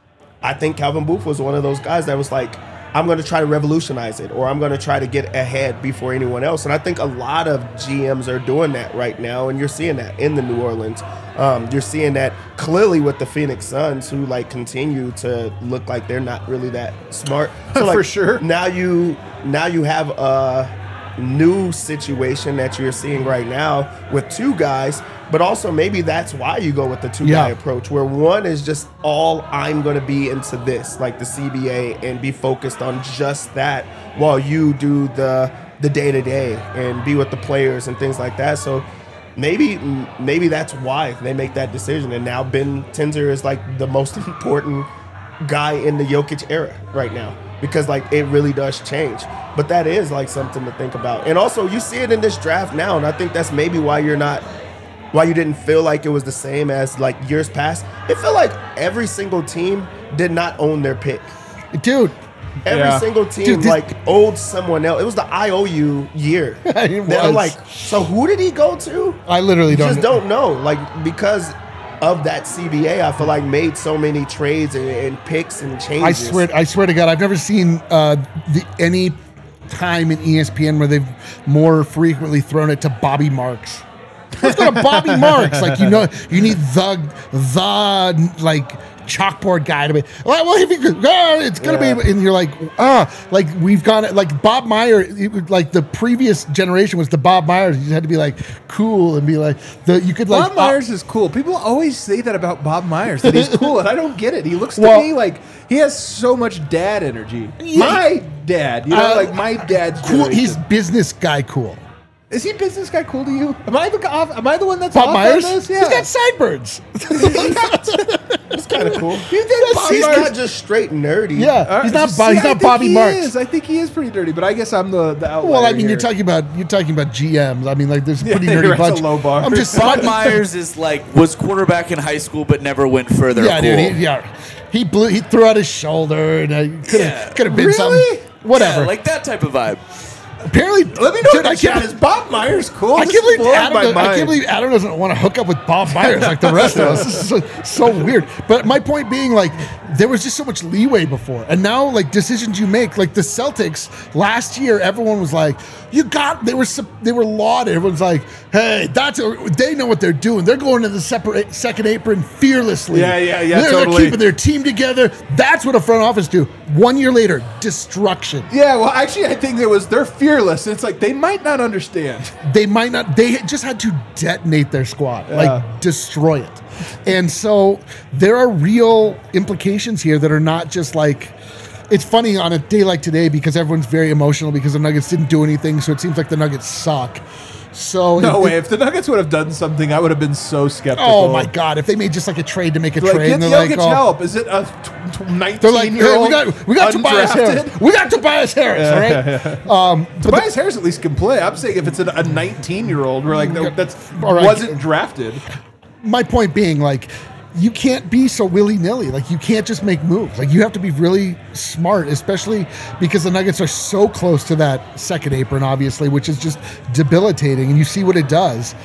S3: I think Calvin Booth was one of those guys that was like, I'm going to try to revolutionize it, or I'm going to try to get ahead before anyone else. And I think a lot of GMs are doing that right now, and you're seeing that in the New Orleans. You're seeing that clearly with the Phoenix Suns, who like continue to look like they're not really that smart. So, like,
S1: For sure.
S3: Now you have a new situation that you're seeing right now with two guys. But also maybe that's why you go with the two-guy approach, where one is just all I'm going to be into this, like the CBA, and be focused on just that, while you do the day-to-day and be with the players and things like that. So maybe that's why they make that decision. And now Ben Tenzer is like the most important guy in the Jokic era right now, because like it really does change. But that is like something to think about. And also you see it in this draft now, and I think that's maybe why you didn't feel like it was the same as like years past. It felt like every single team did not own their pick.
S2: Dude.
S3: Every single team owed someone else. It was the IOU year. I'm like, so who did he go to?
S2: I literally
S3: don't know. Like, because of that CBA, I feel like made so many trades and picks and changes.
S2: I swear to God, I've never seen any time in ESPN where they've more frequently thrown it to Bobby Marks. Let's go to Bobby Marks. Like, you need the like chalkboard guy to be well, if you could, it's gonna be, and you're like, like we've gone like Bob Myers, like the previous generation was the Bob Myers. You just had to be like cool and be like
S1: Bob Myers is cool. People always say that about Bob Myers, that he's cool, and I don't get it. He looks to me like he has so much dad energy. My dad, like my dad's
S2: cool. He's business guy cool.
S1: Is he business guy cool to you? Am I the one that's
S2: Bob
S1: off
S2: Myers?
S1: on this? Yeah.
S2: He's got sideburns.
S3: It's kind of cool.
S1: You think Bob
S3: He's
S1: Myers?
S3: not just straight nerdy.
S2: Yeah, he's not Bobby Marks.
S1: I think he is pretty dirty, but I guess I'm the outlier.
S2: Well, I mean,
S1: here.
S2: you're talking about GMs. I mean, like there's a pretty nerdy bunch.
S1: A low bar.
S2: I'm just
S6: Bob Myers is was quarterback in high school, but never went further.
S2: Yeah,
S6: cool.
S2: dude. He threw out his shoulder, and could have been
S1: Really?
S2: something. Whatever.
S6: Yeah, like that type of vibe.
S2: Apparently,
S1: let me know. Dude, is Bob Myers cool?
S2: I can't believe Adam doesn't want to hook up with Bob Myers like the rest of us. This is so weird. But my point being, like, there was just so much leeway before, and now, like, decisions you make, like the Celtics last year, everyone was like, they were lauded. Everyone's like, hey, they know what they're doing. They're going to the second apron fearlessly.
S1: Yeah,
S2: They're
S1: totally.
S2: keeping their team together. That's what a front office do. 1 year later, destruction.
S1: Yeah, well, actually, I think they're fearless. It's like they might not understand.
S2: They might not. They just had to detonate their squad, like destroy it. And so there are real implications here that are not just like. It's funny on a day like today because everyone's very emotional because the Nuggets didn't do anything, so it seems like the Nuggets suck. So
S1: no way. If the Nuggets would have done something, I would have been so skeptical.
S2: Oh my God! If they made just like a trade to make a trade,
S1: get
S2: and they're
S1: Jokic
S2: like,
S1: help. Is it a 19-year-old?
S2: Hey, we got Tobias Harris. We got Tobias Harris. All right.
S1: Tobias Harris at least can play. I'm saying if it's a 19-year-old, we're like wasn't drafted.
S2: My point being, like, you can't be so willy-nilly. Like, you can't just make moves. Like, you have to be really smart, especially because the Nuggets are so close to that second apron, obviously, which is just debilitating, and you see what it does.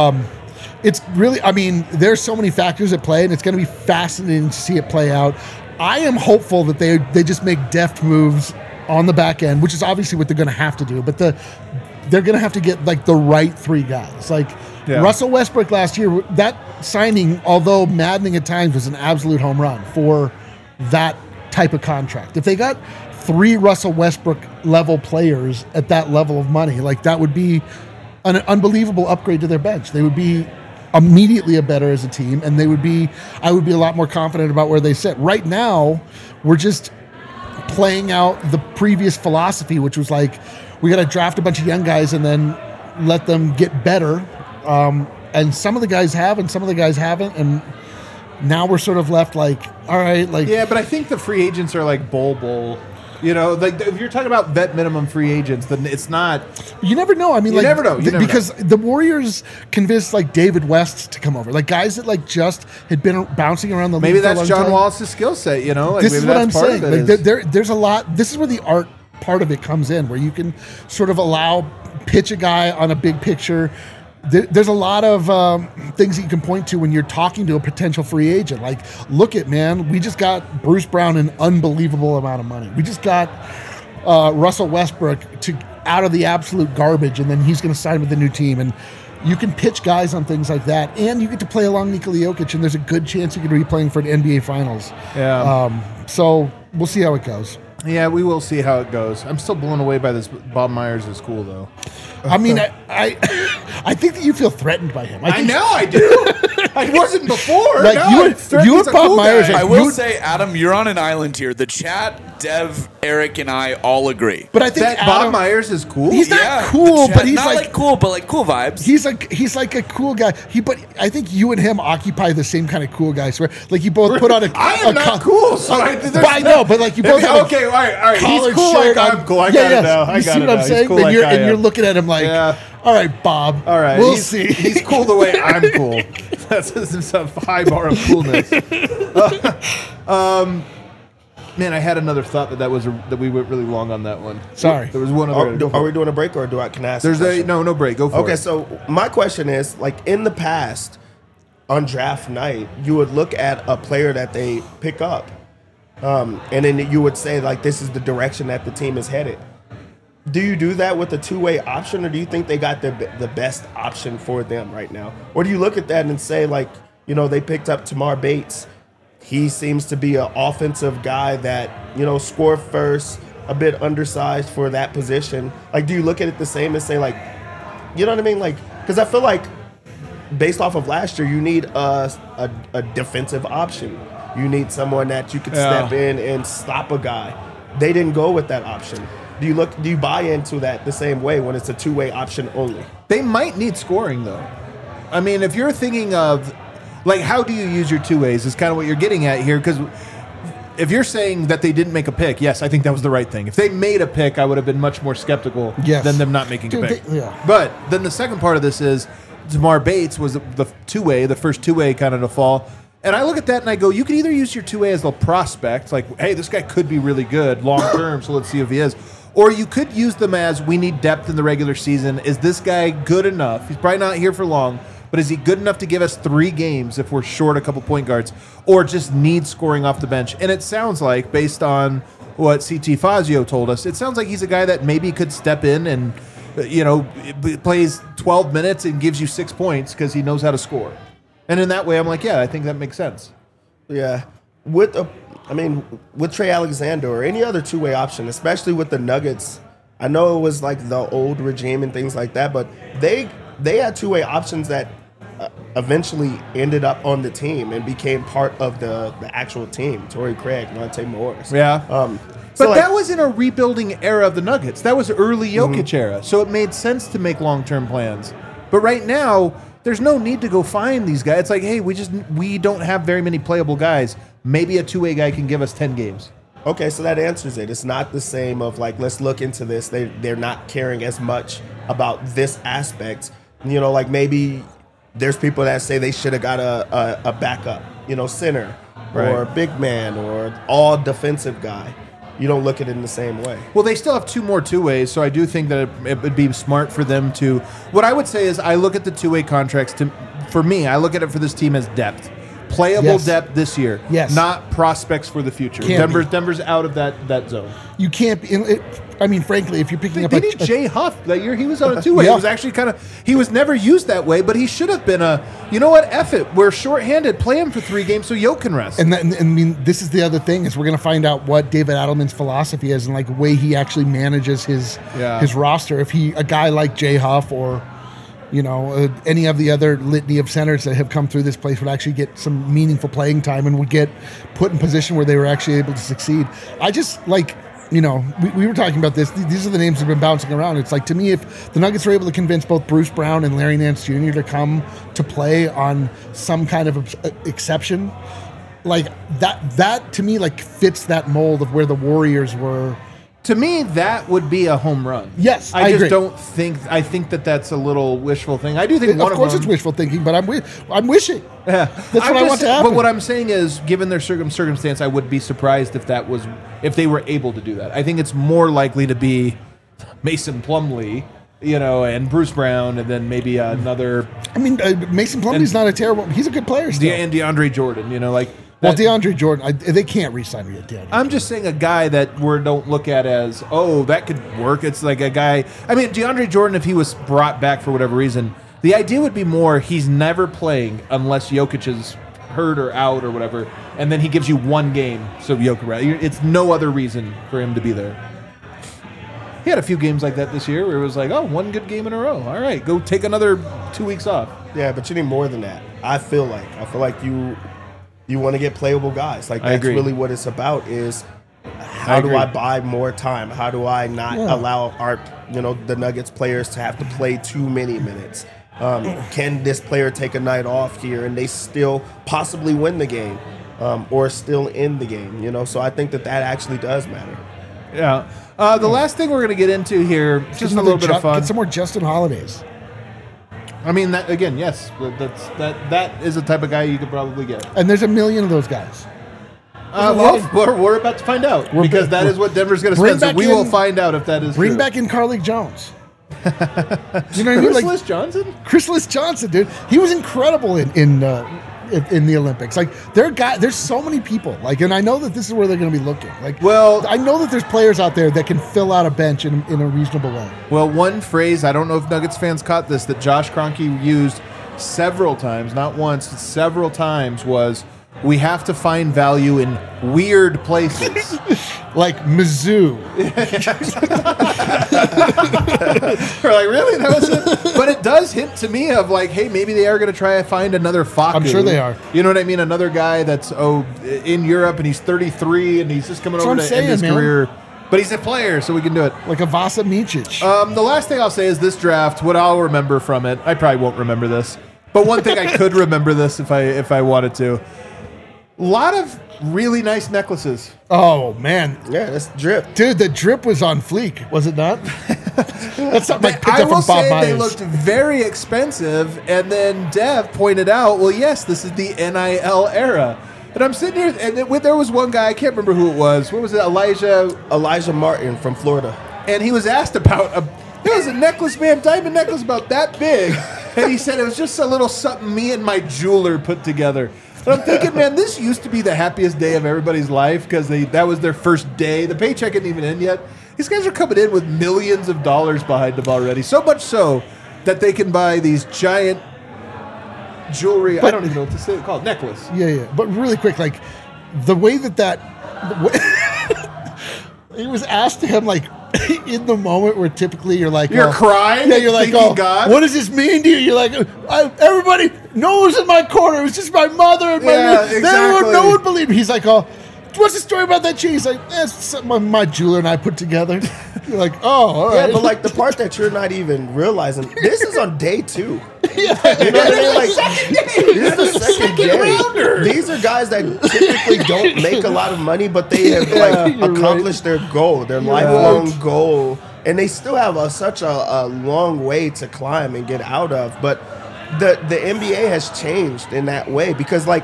S2: It's really, I mean, there's so many factors at play, and it's going to be fascinating to see it play out. I am hopeful that they just make deft moves on the back end, which is obviously what they're going to have to do, but they're going to have to get, like, the right three guys. Like, Russell Westbrook last year, that signing, although maddening at times, was an absolute home run for that type of contract. If they got 3 Russell Westbrook level players at that level of money, like, that would be an unbelievable upgrade to their bench. They would be immediately a better as a team, and I would be a lot more confident about where they sit. Right now, we're just playing out the previous philosophy, which was like, we got to draft a bunch of young guys and then let them get better. And some of the guys have, and some of the guys haven't, and now we're sort of left like, all right, like.
S1: Yeah, but I think the free agents are like bowl. You know, like if you're talking about vet minimum free agents, then it's not.
S2: You never know. I mean,
S1: you never know.
S2: Because the Warriors convinced like David West to come over, like guys that like just had been bouncing around the league.
S1: Maybe
S2: for a
S1: that's
S2: long
S1: John
S2: time.
S1: Wallace's skill set. You know, like
S2: this
S1: maybe
S2: is what
S1: that's
S2: I'm
S1: part
S2: saying.
S1: of it
S2: like there's a lot. This is where the art part of it comes in, where you can sort of pitch a guy on a big picture, there's a lot of things that you can point to when you're talking to a potential free agent. Like, look at, man, we just got Bruce Brown an unbelievable amount of money. We just got Russell Westbrook out of the absolute garbage, and then he's going to sign with the new team. And you can pitch guys on things like that, and you get to play along Nikola Jokic, and there's a good chance you could be playing for an NBA Finals.
S1: Yeah.
S2: So we'll see how it goes.
S1: Yeah, we will see how it goes. I'm still blown away by this. Bob Myers is cool, though.
S2: I mean, I think that you feel threatened by him.
S1: I know I do. I wasn't before.
S2: Like,
S1: no,
S2: you and Bob Myers
S1: guy.
S2: are-
S6: I will
S2: You-
S6: say, Adam, you're on an island here. The chat, Dev, Eric, and I all agree.
S2: But I think
S1: that
S2: Adam,
S1: Bob Myers is cool.
S2: He's not
S6: Yeah,
S2: cool,
S6: the chat-
S2: but he's
S6: not
S2: like
S6: cool, but like cool vibes.
S2: he's like a cool guy. But I think you and him occupy the same kind of cool guys. Where like you both put on a.
S1: I am not cool. So
S2: I know, but like you both have
S1: okay. All right. He's
S2: collared
S1: cool.
S2: shirt
S1: Like
S2: on.
S1: I'm cool. I
S2: Yeah,
S1: got
S2: yes.
S1: it now. I
S2: You
S1: got
S2: see
S1: it
S2: what
S1: now.
S2: I'm
S1: He's
S2: saying?
S1: cool
S2: And
S1: like
S2: you're
S1: I
S2: and you're
S1: am.
S2: looking at him like,
S1: Yeah.
S2: all right, Bob.
S1: All right.
S2: we'll
S1: he's,
S2: see.
S1: He's cool the way I'm cool. That's a high bar of coolness. Man, I had another thought that we went really long on that one.
S2: Sorry.
S1: There was one other.
S3: Are we doing a break or can I ask?
S1: There's
S3: a question?
S1: no break. Go for it.
S3: Okay, so my question is, like, in the past, on draft night, you would look at a player that they pick up, and then you would say, like, this is the direction that the team is headed. Do you do that with a two-way option, or do you think they got the best option for them right now? Or do you look at that and say, like, you know, they picked up Tamar Bates. He seems to be an offensive guy that, you know, score first, a bit undersized for that position. Like, do you look at it the same and say, like, you know what I mean? Like, because I feel like based off of last year, you need a defensive option. You need someone that you could step in and stop a guy. They didn't go with that option. Do you buy into that the same way when it's a two-way option only?
S1: They might need scoring, though. I mean, if you're thinking of, like, how do you use your two ways is kind of what you're getting at here. Because if you're saying that they didn't make a pick, yes, I think that was the right thing. If they made a pick, I would have been much more skeptical than them not making a pick.
S2: yeah.
S1: But then the second part of this is Tamar Bates was the two-way, the first two-way kind of to fall. And I look at that and I go, you can either use your two-way as a prospect, like, hey, this guy could be really good long-term, so let's see if he is. Or you could use them as, we need depth in the regular season. Is this guy good enough? He's probably not here for long, but is he good enough to give us 3 games if we're short a couple point guards, or just need scoring off the bench? And it sounds like, based on what CT Fazio told us, it sounds like he's a guy that maybe could step in and, you know, plays 12 minutes and gives you 6 points because he knows how to score. And in that way, I'm like, yeah, I think that makes sense.
S3: Yeah. With Trey Alexander or any other two-way option, especially with the Nuggets, I know it was like the old regime and things like that, but they had two-way options that eventually ended up on the team and became part of the actual team. Torrey Craig, Monte Morris.
S1: Yeah.
S3: So
S1: But that was in a rebuilding era of the Nuggets. That was early Jokic era, so it made sense to make long-term plans. But right now, there's no need to go find these guys. It's like, hey, we don't have very many playable guys. Maybe a two-way guy can give us 10 games.
S3: Okay, so that answers it. It's not the same of like, let's look into this. They're not caring as much about this aspect. You know, like maybe there's people that say they should have got a backup, you know, center or big man or all defensive guy. You don't look at it in the same way.
S1: Well, they still have 2 more two-ways, so I do think that it would be smart for them to... What I would say is I look at the two-way contracts, for me, I look at it for this team as depth. Playable depth this year.
S2: Yes.
S1: Not prospects for the future. Denver's out of that zone.
S2: You can't be. I mean, frankly, if you're picking up
S1: They need Jay Huff that year. He was on a two-way.
S2: Yeah.
S1: It was actually he was never used that way, but he should have been you know what, F it. We're shorthanded. Play him for 3 games so Yo can rest.
S2: And I mean, this is the other thing is we're going to find out what David Adelman's philosophy is and like way he actually manages his roster. If a guy like Jay Huff or, you know, any of the other litany of centers that have come through this place would actually get some meaningful playing time and would get put in position where they were actually able to succeed. I just like, you know, we were talking about this. These are the names that have been bouncing around. It's like, to me, if the Nuggets are able to convince both Bruce Brown and Larry Nance Jr. to come to play on some kind of exception, like that to me, like fits that mold of where the Warriors were.
S1: To me, that would be a home run.
S2: Yes,
S1: I
S2: I
S1: just
S2: agree.
S1: don't think. I think that's a little wishful thing. I do think one
S2: Of course,
S1: them,
S2: it's wishful thinking, but I'm wishing. That's what I want to happen.
S1: But what I'm saying is, given their circumstance, I would be surprised if they were able to do that. I think it's more likely to be Mason Plumlee and Bruce Brown, and then maybe another.
S2: I mean, Mason Plumlee's not a terrible. He's a good player still.
S1: And DeAndre Jordan,
S2: Well, DeAndre Jordan, they can't re-sign him yet. DeAndre.
S1: I'm just saying a guy that we don't look at as, that could work. It's like a guy. I mean, DeAndre Jordan, if he was brought back for whatever reason, the idea would be more he's never playing unless Jokic is hurt or out or whatever, and then he gives you one game. So Jokic, it's no other reason for him to be there. He had a few games like that this year where it was like, one good game in a row. All right, go take another 2 weeks off.
S3: Yeah, but you need more than that. I feel like you want to get playable guys. Like that's really what it's about. Is how do I buy more time? How do I not allow the Nuggets players to have to play too many minutes? Can this player take a night off here and they still possibly win the game, or still in the game? So I think that actually does matter.
S1: Yeah. The last thing we're going to get into here, just a little bit of fun.
S2: Get some more Justin Holidays.
S1: I mean, that again, yes, that is the type of guy you could probably get.
S2: And there's a million of those guys.
S1: We're about to find out because that is what Denver's going to spend. So we will find out if that is
S2: Bring
S1: true.
S2: Back in Carlik Jones.
S1: Do you know what I mean? Johnson?
S2: Chris Johnson, dude. He was incredible in the Olympics. Like there's so many people. Like, and I know that this is where they're going to be looking. Like, I know that there's players out there that can fill out a bench in a reasonable way.
S1: Well, one phrase, I don't know if Nuggets fans caught this, that Josh Kroenke used several times, not once, several times, was we have to find value in weird places.
S2: Like Mizzou.
S1: We're like, really? That was it? But it does hint to me of like, hey, maybe they are going to try to find another Facu.
S2: I'm sure they are.
S1: You know what I mean? Another guy that's in Europe and he's 33 and he's just coming over to end his career. But he's a player, so we can do it.
S2: Like a Vasa Micic.
S1: The last thing I'll say is this draft, what I'll remember from it, I probably won't remember this, but one thing I could remember this if I wanted to. A lot of really nice necklaces.
S2: Oh, man.
S3: Yeah, that's drip.
S2: Dude, the drip was on fleek, was it not? That's something I picked up from Bob Myers. I will say
S1: they looked very expensive, and then Dev pointed out, well, yes, this is the NIL era. And I'm sitting here, and there was one guy, I can't remember who it was. What was it?
S3: Elijah Martin from Florida.
S1: And he was asked about, it was a necklace, man, diamond necklace about that big. And he said it was just a little something me and my jeweler put together. But I'm thinking, man, this used to be the happiest day of everybody's life because that was their first day. The paycheck isn't even in yet. These guys are coming in with millions of dollars behind them already. So much so that they can buy these giant jewelry. I don't even know what to say. Called necklace.
S2: Yeah. But really quick, like the way that it was asked to him, like in the moment where typically you're like,
S1: you're crying.
S2: Yeah, you're like,
S1: God.
S2: What does this mean to you? You're like, everybody knows in my corner. It was just my mother and
S1: exactly.
S2: No one believed me. He's like, what's the story about that chain? He's like, that's something my jeweler and I put together. You're like, all right.
S3: Yeah, but like the part that you're not even realizing, this is on day 2. You know what I mean? Like, this is the second rounder. These are guys that typically don't make a lot of money, but they have accomplished their goal, their lifelong goal, and they still have such a long way to climb and get out of. But the NBA has changed in that way because, like,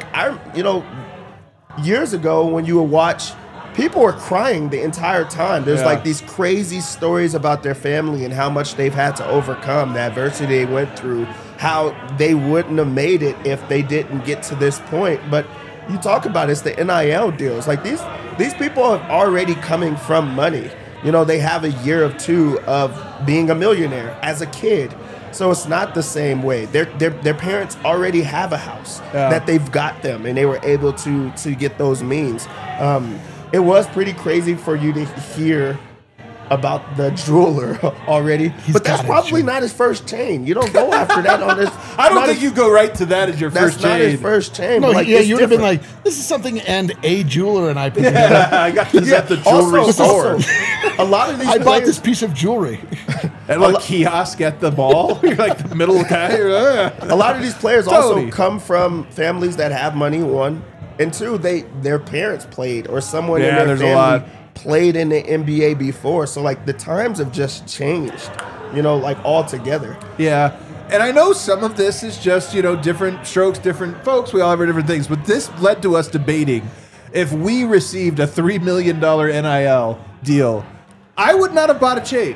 S3: years ago when you would watch, people were crying the entire time. There's like these crazy stories about their family and how much they've had to overcome, the adversity they went through, how they wouldn't have made it if they didn't get to this point. But you talk about it's the NIL deals. Like these people are already coming from money. They have a year or two of being a millionaire as a kid. So it's not the same way. Their parents already have a house that they've got them, and they were able to get those means. It was pretty crazy for you to hear about the jeweler already, but that's probably not his first chain. You don't go after that on this.
S1: I don't think you go right to that as your first chain.
S3: That's not his first chain.
S2: No, you would have been like, this is something and a jeweler and I put together.
S1: I got this at the jewelry store.
S3: A lot of these
S2: I bought this piece of jewelry.
S1: At a kiosk at the mall. You're like the middle guy.
S3: A lot of these players also come from families that have money, one. And two, their parents played or someone in their family played in the NBA before. So, like, the times have just changed, like altogether.
S1: Yeah. And I know some of this is just, different strokes, different folks. We all have our different things. But this led to us debating if we received a $3 million NIL deal, I would not have bought a chain.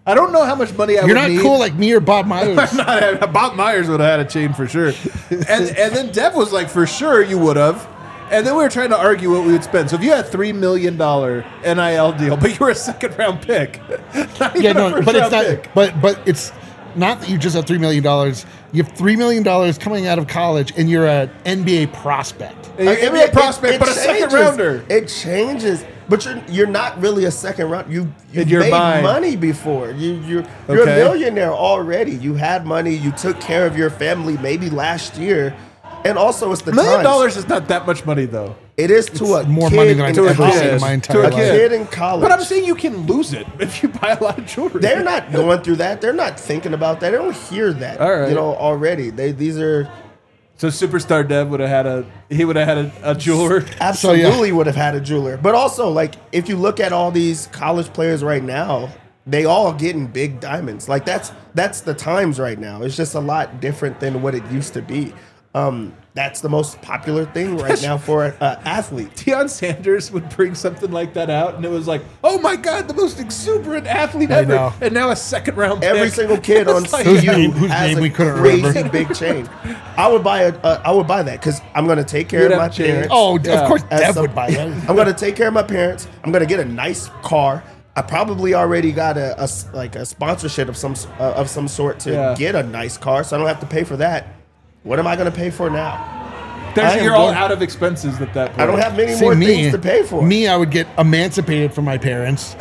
S1: I don't know how much money I
S2: You're
S1: would
S2: not
S1: need.
S2: cool like me or Bob Myers.
S1: Bob Myers would have had a chain for sure. And then Dev was like, for sure you would have. And then we were trying to argue what we would spend. So if you had $3 million NIL deal, but you were a second round pick, not even a first
S2: but it's
S1: round
S2: not.
S1: pick.
S2: But it's not that you just have $3 million. You have $3 million coming out of college, and you're an NBA prospect.
S1: You're a prospect, but a second rounder.
S3: It changes, but you're not really a second round. You've
S1: In your
S3: made
S1: mind.
S3: money before. You're a
S1: Okay.
S3: millionaire already. You had money. You took care of your family maybe last year, and also it's the
S1: $1 million
S3: times.
S1: is not that much money, though.
S3: It is to a
S2: More
S3: kid
S2: money than I've
S3: in
S2: ever
S3: college.
S2: seen in my
S1: To
S2: entire
S1: a
S2: life.
S3: Kid in college.
S1: But I'm saying you can lose it if you buy a lot of jewelry.
S3: They're not going through that. They're not thinking about that. They don't hear that.
S1: All right.
S3: Already. These are
S1: So Superstar Dev would have had a jeweler.
S3: absolutely would have had a jeweler. But also, like, if you look at all these college players right now, they all getting big diamonds. Like that's the times right now. It's just a lot different than what it used to be. That's the most popular thing right now for an athlete.
S1: Deion Sanders would bring something like that out, and it was like, oh my God, the most exuberant athlete
S2: I
S1: ever.
S2: know.
S1: And now a second round pick.
S3: Every single kid on
S1: It's like-
S3: CU
S2: Whose
S3: has
S2: name
S3: a
S2: we couldn't
S3: crazy
S2: remember.
S3: big chain. I would buy that because I'm going to take care
S1: You'd
S3: of my
S1: have a chain.
S3: parents.
S2: Oh,
S1: Yeah.
S2: of course,
S3: As
S2: Dev
S3: some-
S2: would buy that.
S3: I'm going to take care of my parents. I'm going to get a nice car. I probably already got a sponsorship of some sort to
S1: Yeah.
S3: get a nice car, so I don't have to pay for that. What am I going to pay for now? I am
S1: You're all
S3: going-
S1: out of expenses at that point.
S3: I don't have many
S2: See,
S3: more things to pay for.
S2: Me, I would get emancipated from my parents.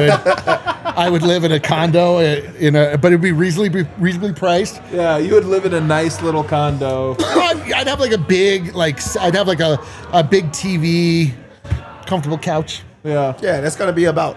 S2: I would live in a condo but it'd be reasonably priced.
S1: Yeah, you would live in a nice little condo.
S2: I'd have like a big I'd have like a big TV, comfortable couch.
S1: Yeah.
S3: Yeah, that's going to be about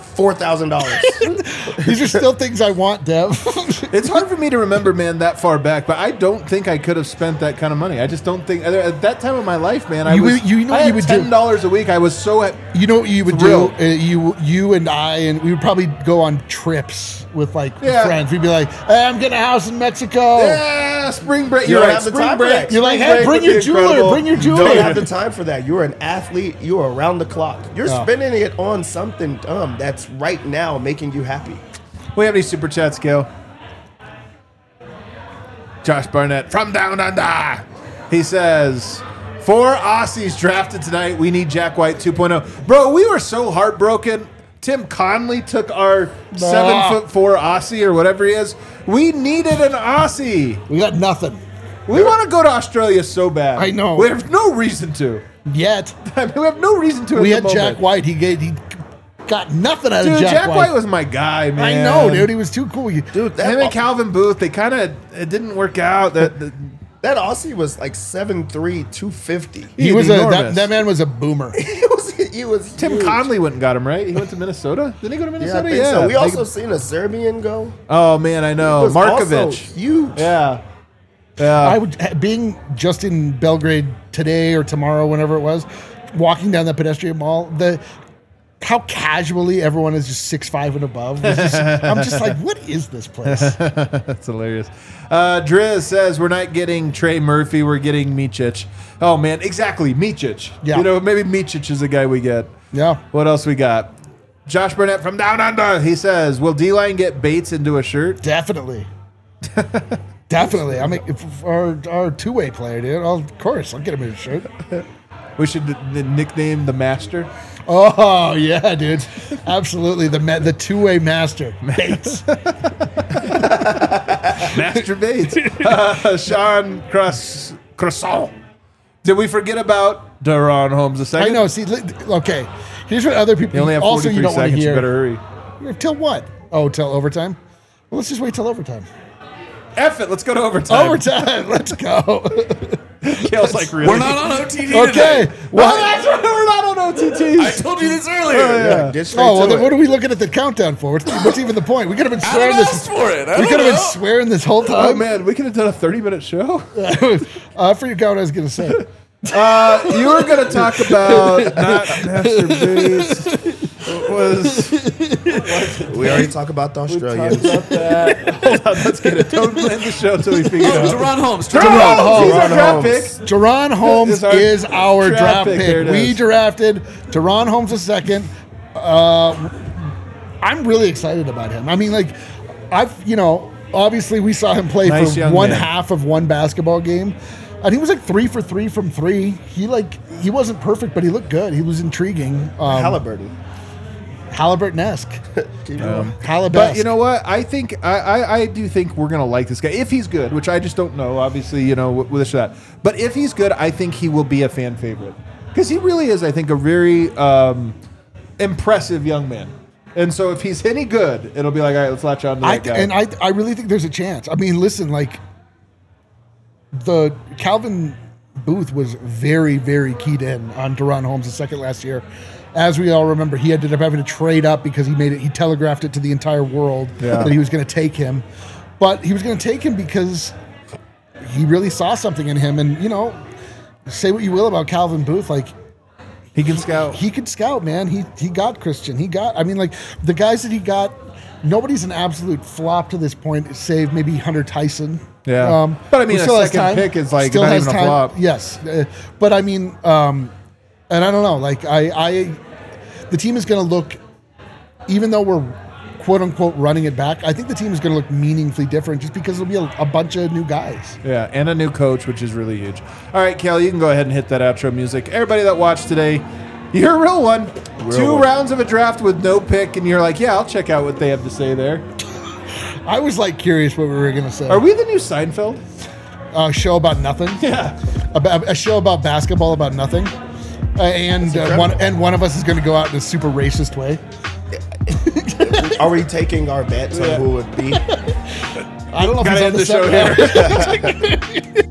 S3: $4,000.
S2: These are still things I want, Dev.
S1: It's hard for me to remember, man, that far back, but I don't think I could have spent that kind of money. I just don't think at that time of my life, man. I
S2: You
S1: was
S2: would- you know
S1: I
S2: what
S1: had
S2: you would do?
S1: $10 a week. I was so
S2: You know what you would
S1: Thrilled.
S2: do? You and I, and we would probably go on trips with
S1: Yeah.
S2: friends. We'd be like, hey, I'm getting a house in Mexico.
S1: yeah, spring break.
S3: You
S1: You're
S3: don't
S1: right.
S3: have the
S1: Spring
S3: time for
S1: break.
S3: that.
S2: You're like,
S1: Spring
S2: hey,
S1: break
S2: bring
S1: would
S2: your
S1: be
S2: jeweler,
S1: incredible.
S2: bring your
S3: You
S2: jeweler.
S3: don't have the time for that. You're an athlete. You are around the clock. You're
S2: Oh.
S3: spending it on something dumb that's right now making you happy.
S1: We have any super chats, Gail? Josh Barnett from Down Under. He says, 4 Aussies drafted tonight. We need Jack White 2.0. Bro, we were so heartbroken. Tim Conley took our 7'4" Aussie or whatever he is. We needed an Aussie.
S2: We got nothing
S1: We want to go to Australia so bad.
S2: I know.
S1: We have no reason to.
S2: yet.
S1: I mean, we have no reason to.
S2: We
S1: at
S2: had
S1: the
S2: Jack
S1: moment.
S2: White. He got nothing out
S1: Dude,
S2: of
S1: Jack White was my guy,
S2: I
S1: man.
S2: know, dude. He was too cool.
S3: Dude,
S1: Him and Calvin Booth, they kind of it didn't work out. That
S3: that Aussie was like 7'3", 250.
S2: He was
S1: enormous.
S2: that man was a boomer.
S3: He was
S1: Tim
S3: huge.
S1: Conley went and got him, right? He went to Minnesota. Didn't he go to
S3: Yeah, I
S1: Minnesota?
S3: think so. We
S1: They-
S3: also seen a Serbian go.
S1: Oh man, I
S3: He
S1: know
S3: was also
S1: Markovic.
S3: huge.
S1: Yeah,
S2: I
S1: yeah.
S2: would being just in Belgrade today or tomorrow, whenever it was, walking down that pedestrian mall. How casually everyone is just 6'5" and above. I'm just like, what is this place?
S1: That's hilarious. Driz says we're not getting Trey Murphy, we're getting Micic. Oh man, exactly, Micic.
S2: Yeah.
S1: You know, maybe Micic is the guy we get.
S2: Yeah.
S1: What else we got? Josh Burnett from Down Under. He says, will D-Line get Bates into a shirt?
S2: Definitely. Definitely. I mean, if our two-way player, dude. Of course, I'll get him in a shirt.
S1: We should nickname the Master.
S2: Oh yeah, dude. Absolutely. The two-way master. Bates.
S1: Master Bates. Sean Croissant. Did we forget about Daron Holmes II?
S2: I know. See, okay. Here's what other people
S1: You only have
S2: also
S1: 43
S2: you don't want to
S1: seconds. You
S2: hear.
S1: better hurry.
S2: Till what? Oh, till overtime? Well, let's just wait till overtime.
S1: F it. Let's go to overtime.
S2: Overtime. Let's go.
S1: Kale's like, really?
S6: We're not on OTT
S2: Okay.
S6: today.
S2: Well,
S1: Oh, that's right. We're not on OTTs.
S6: I told you this earlier.
S3: Yeah, get straight
S2: oh, well,
S3: to
S2: then
S3: it.
S2: what are we looking at the countdown for? What's even the point? We could have been swearing
S6: Adam
S2: this.
S6: asked for it. I
S2: We
S6: don't
S2: could have been
S6: know.
S2: swearing this whole
S1: Oh,
S2: time.
S1: man. We could have done a 30-minute show.
S2: I forgot what I was going to say.
S1: You were going to talk about not Master Bates.
S3: We already talked about the Australians.
S1: About that. Hold on. Let's get it. Don't end the show until we figure it
S6: Oh,
S1: out.
S6: Deron Holmes.
S1: He's
S2: Holmes.
S1: our draft
S3: Holmes.
S1: pick.
S2: Jaron Holmes is our draft
S1: There
S2: pick.
S1: it
S2: We
S1: is.
S2: drafted Jaron Holmes II. I'm really excited about him. I mean, like, obviously we saw him play
S1: Nice
S2: for
S1: young
S2: one
S1: man.
S2: half of one basketball game, and he was like 3 for 3 from three. He wasn't perfect, but he looked good. He was intriguing. Halliburton-esque. Halliburton.
S1: But you know what? I think I do think we're gonna like this guy if he's good, which I just don't know. Obviously, with this or that. But if he's good, I think he will be a fan favorite because he really is. I think a very impressive young man. And so if he's any good, it'll be like, all right, let's latch on to that guy.
S2: And I really think there's a chance. I mean, listen, like the Calvin Booth was very, very keyed in on Deron Holmes' second last year. As we all remember, he ended up having to trade up because he telegraphed it to the entire world that he was going to take him. But he was going to take him because he really saw something in him. And, say what you will about Calvin Booth, like,
S1: he can scout.
S2: He could scout, man. He got Christian. The guys that he got, nobody's an absolute flop to this point, save maybe Hunter Tyson.
S1: Yeah. But I mean, a second pick is like not even a flop.
S2: Yes. But I mean, and I don't know, like the team is going to look, even though we're quote unquote running it back, I think the team is going to look meaningfully different just because there'll be a bunch of new guys.
S1: Yeah, and a new coach, which is really huge. All right, Cal, you can go ahead and hit that outro music. Everybody that watched today, you're a real one. Two rounds of a draft with no pick, and you're like, yeah, I'll check out what they have to say there.
S2: I was like curious what we were going to say.
S1: Are we the new Seinfeld?
S2: A show about nothing?
S1: Yeah.
S2: A show about basketball about nothing? And one of us is going to go out in a super racist way.
S3: Are we taking our bets on who it would be?
S2: I don't know if
S1: Gotta
S2: he's on
S1: end
S2: the
S1: the show
S2: set.
S1: here.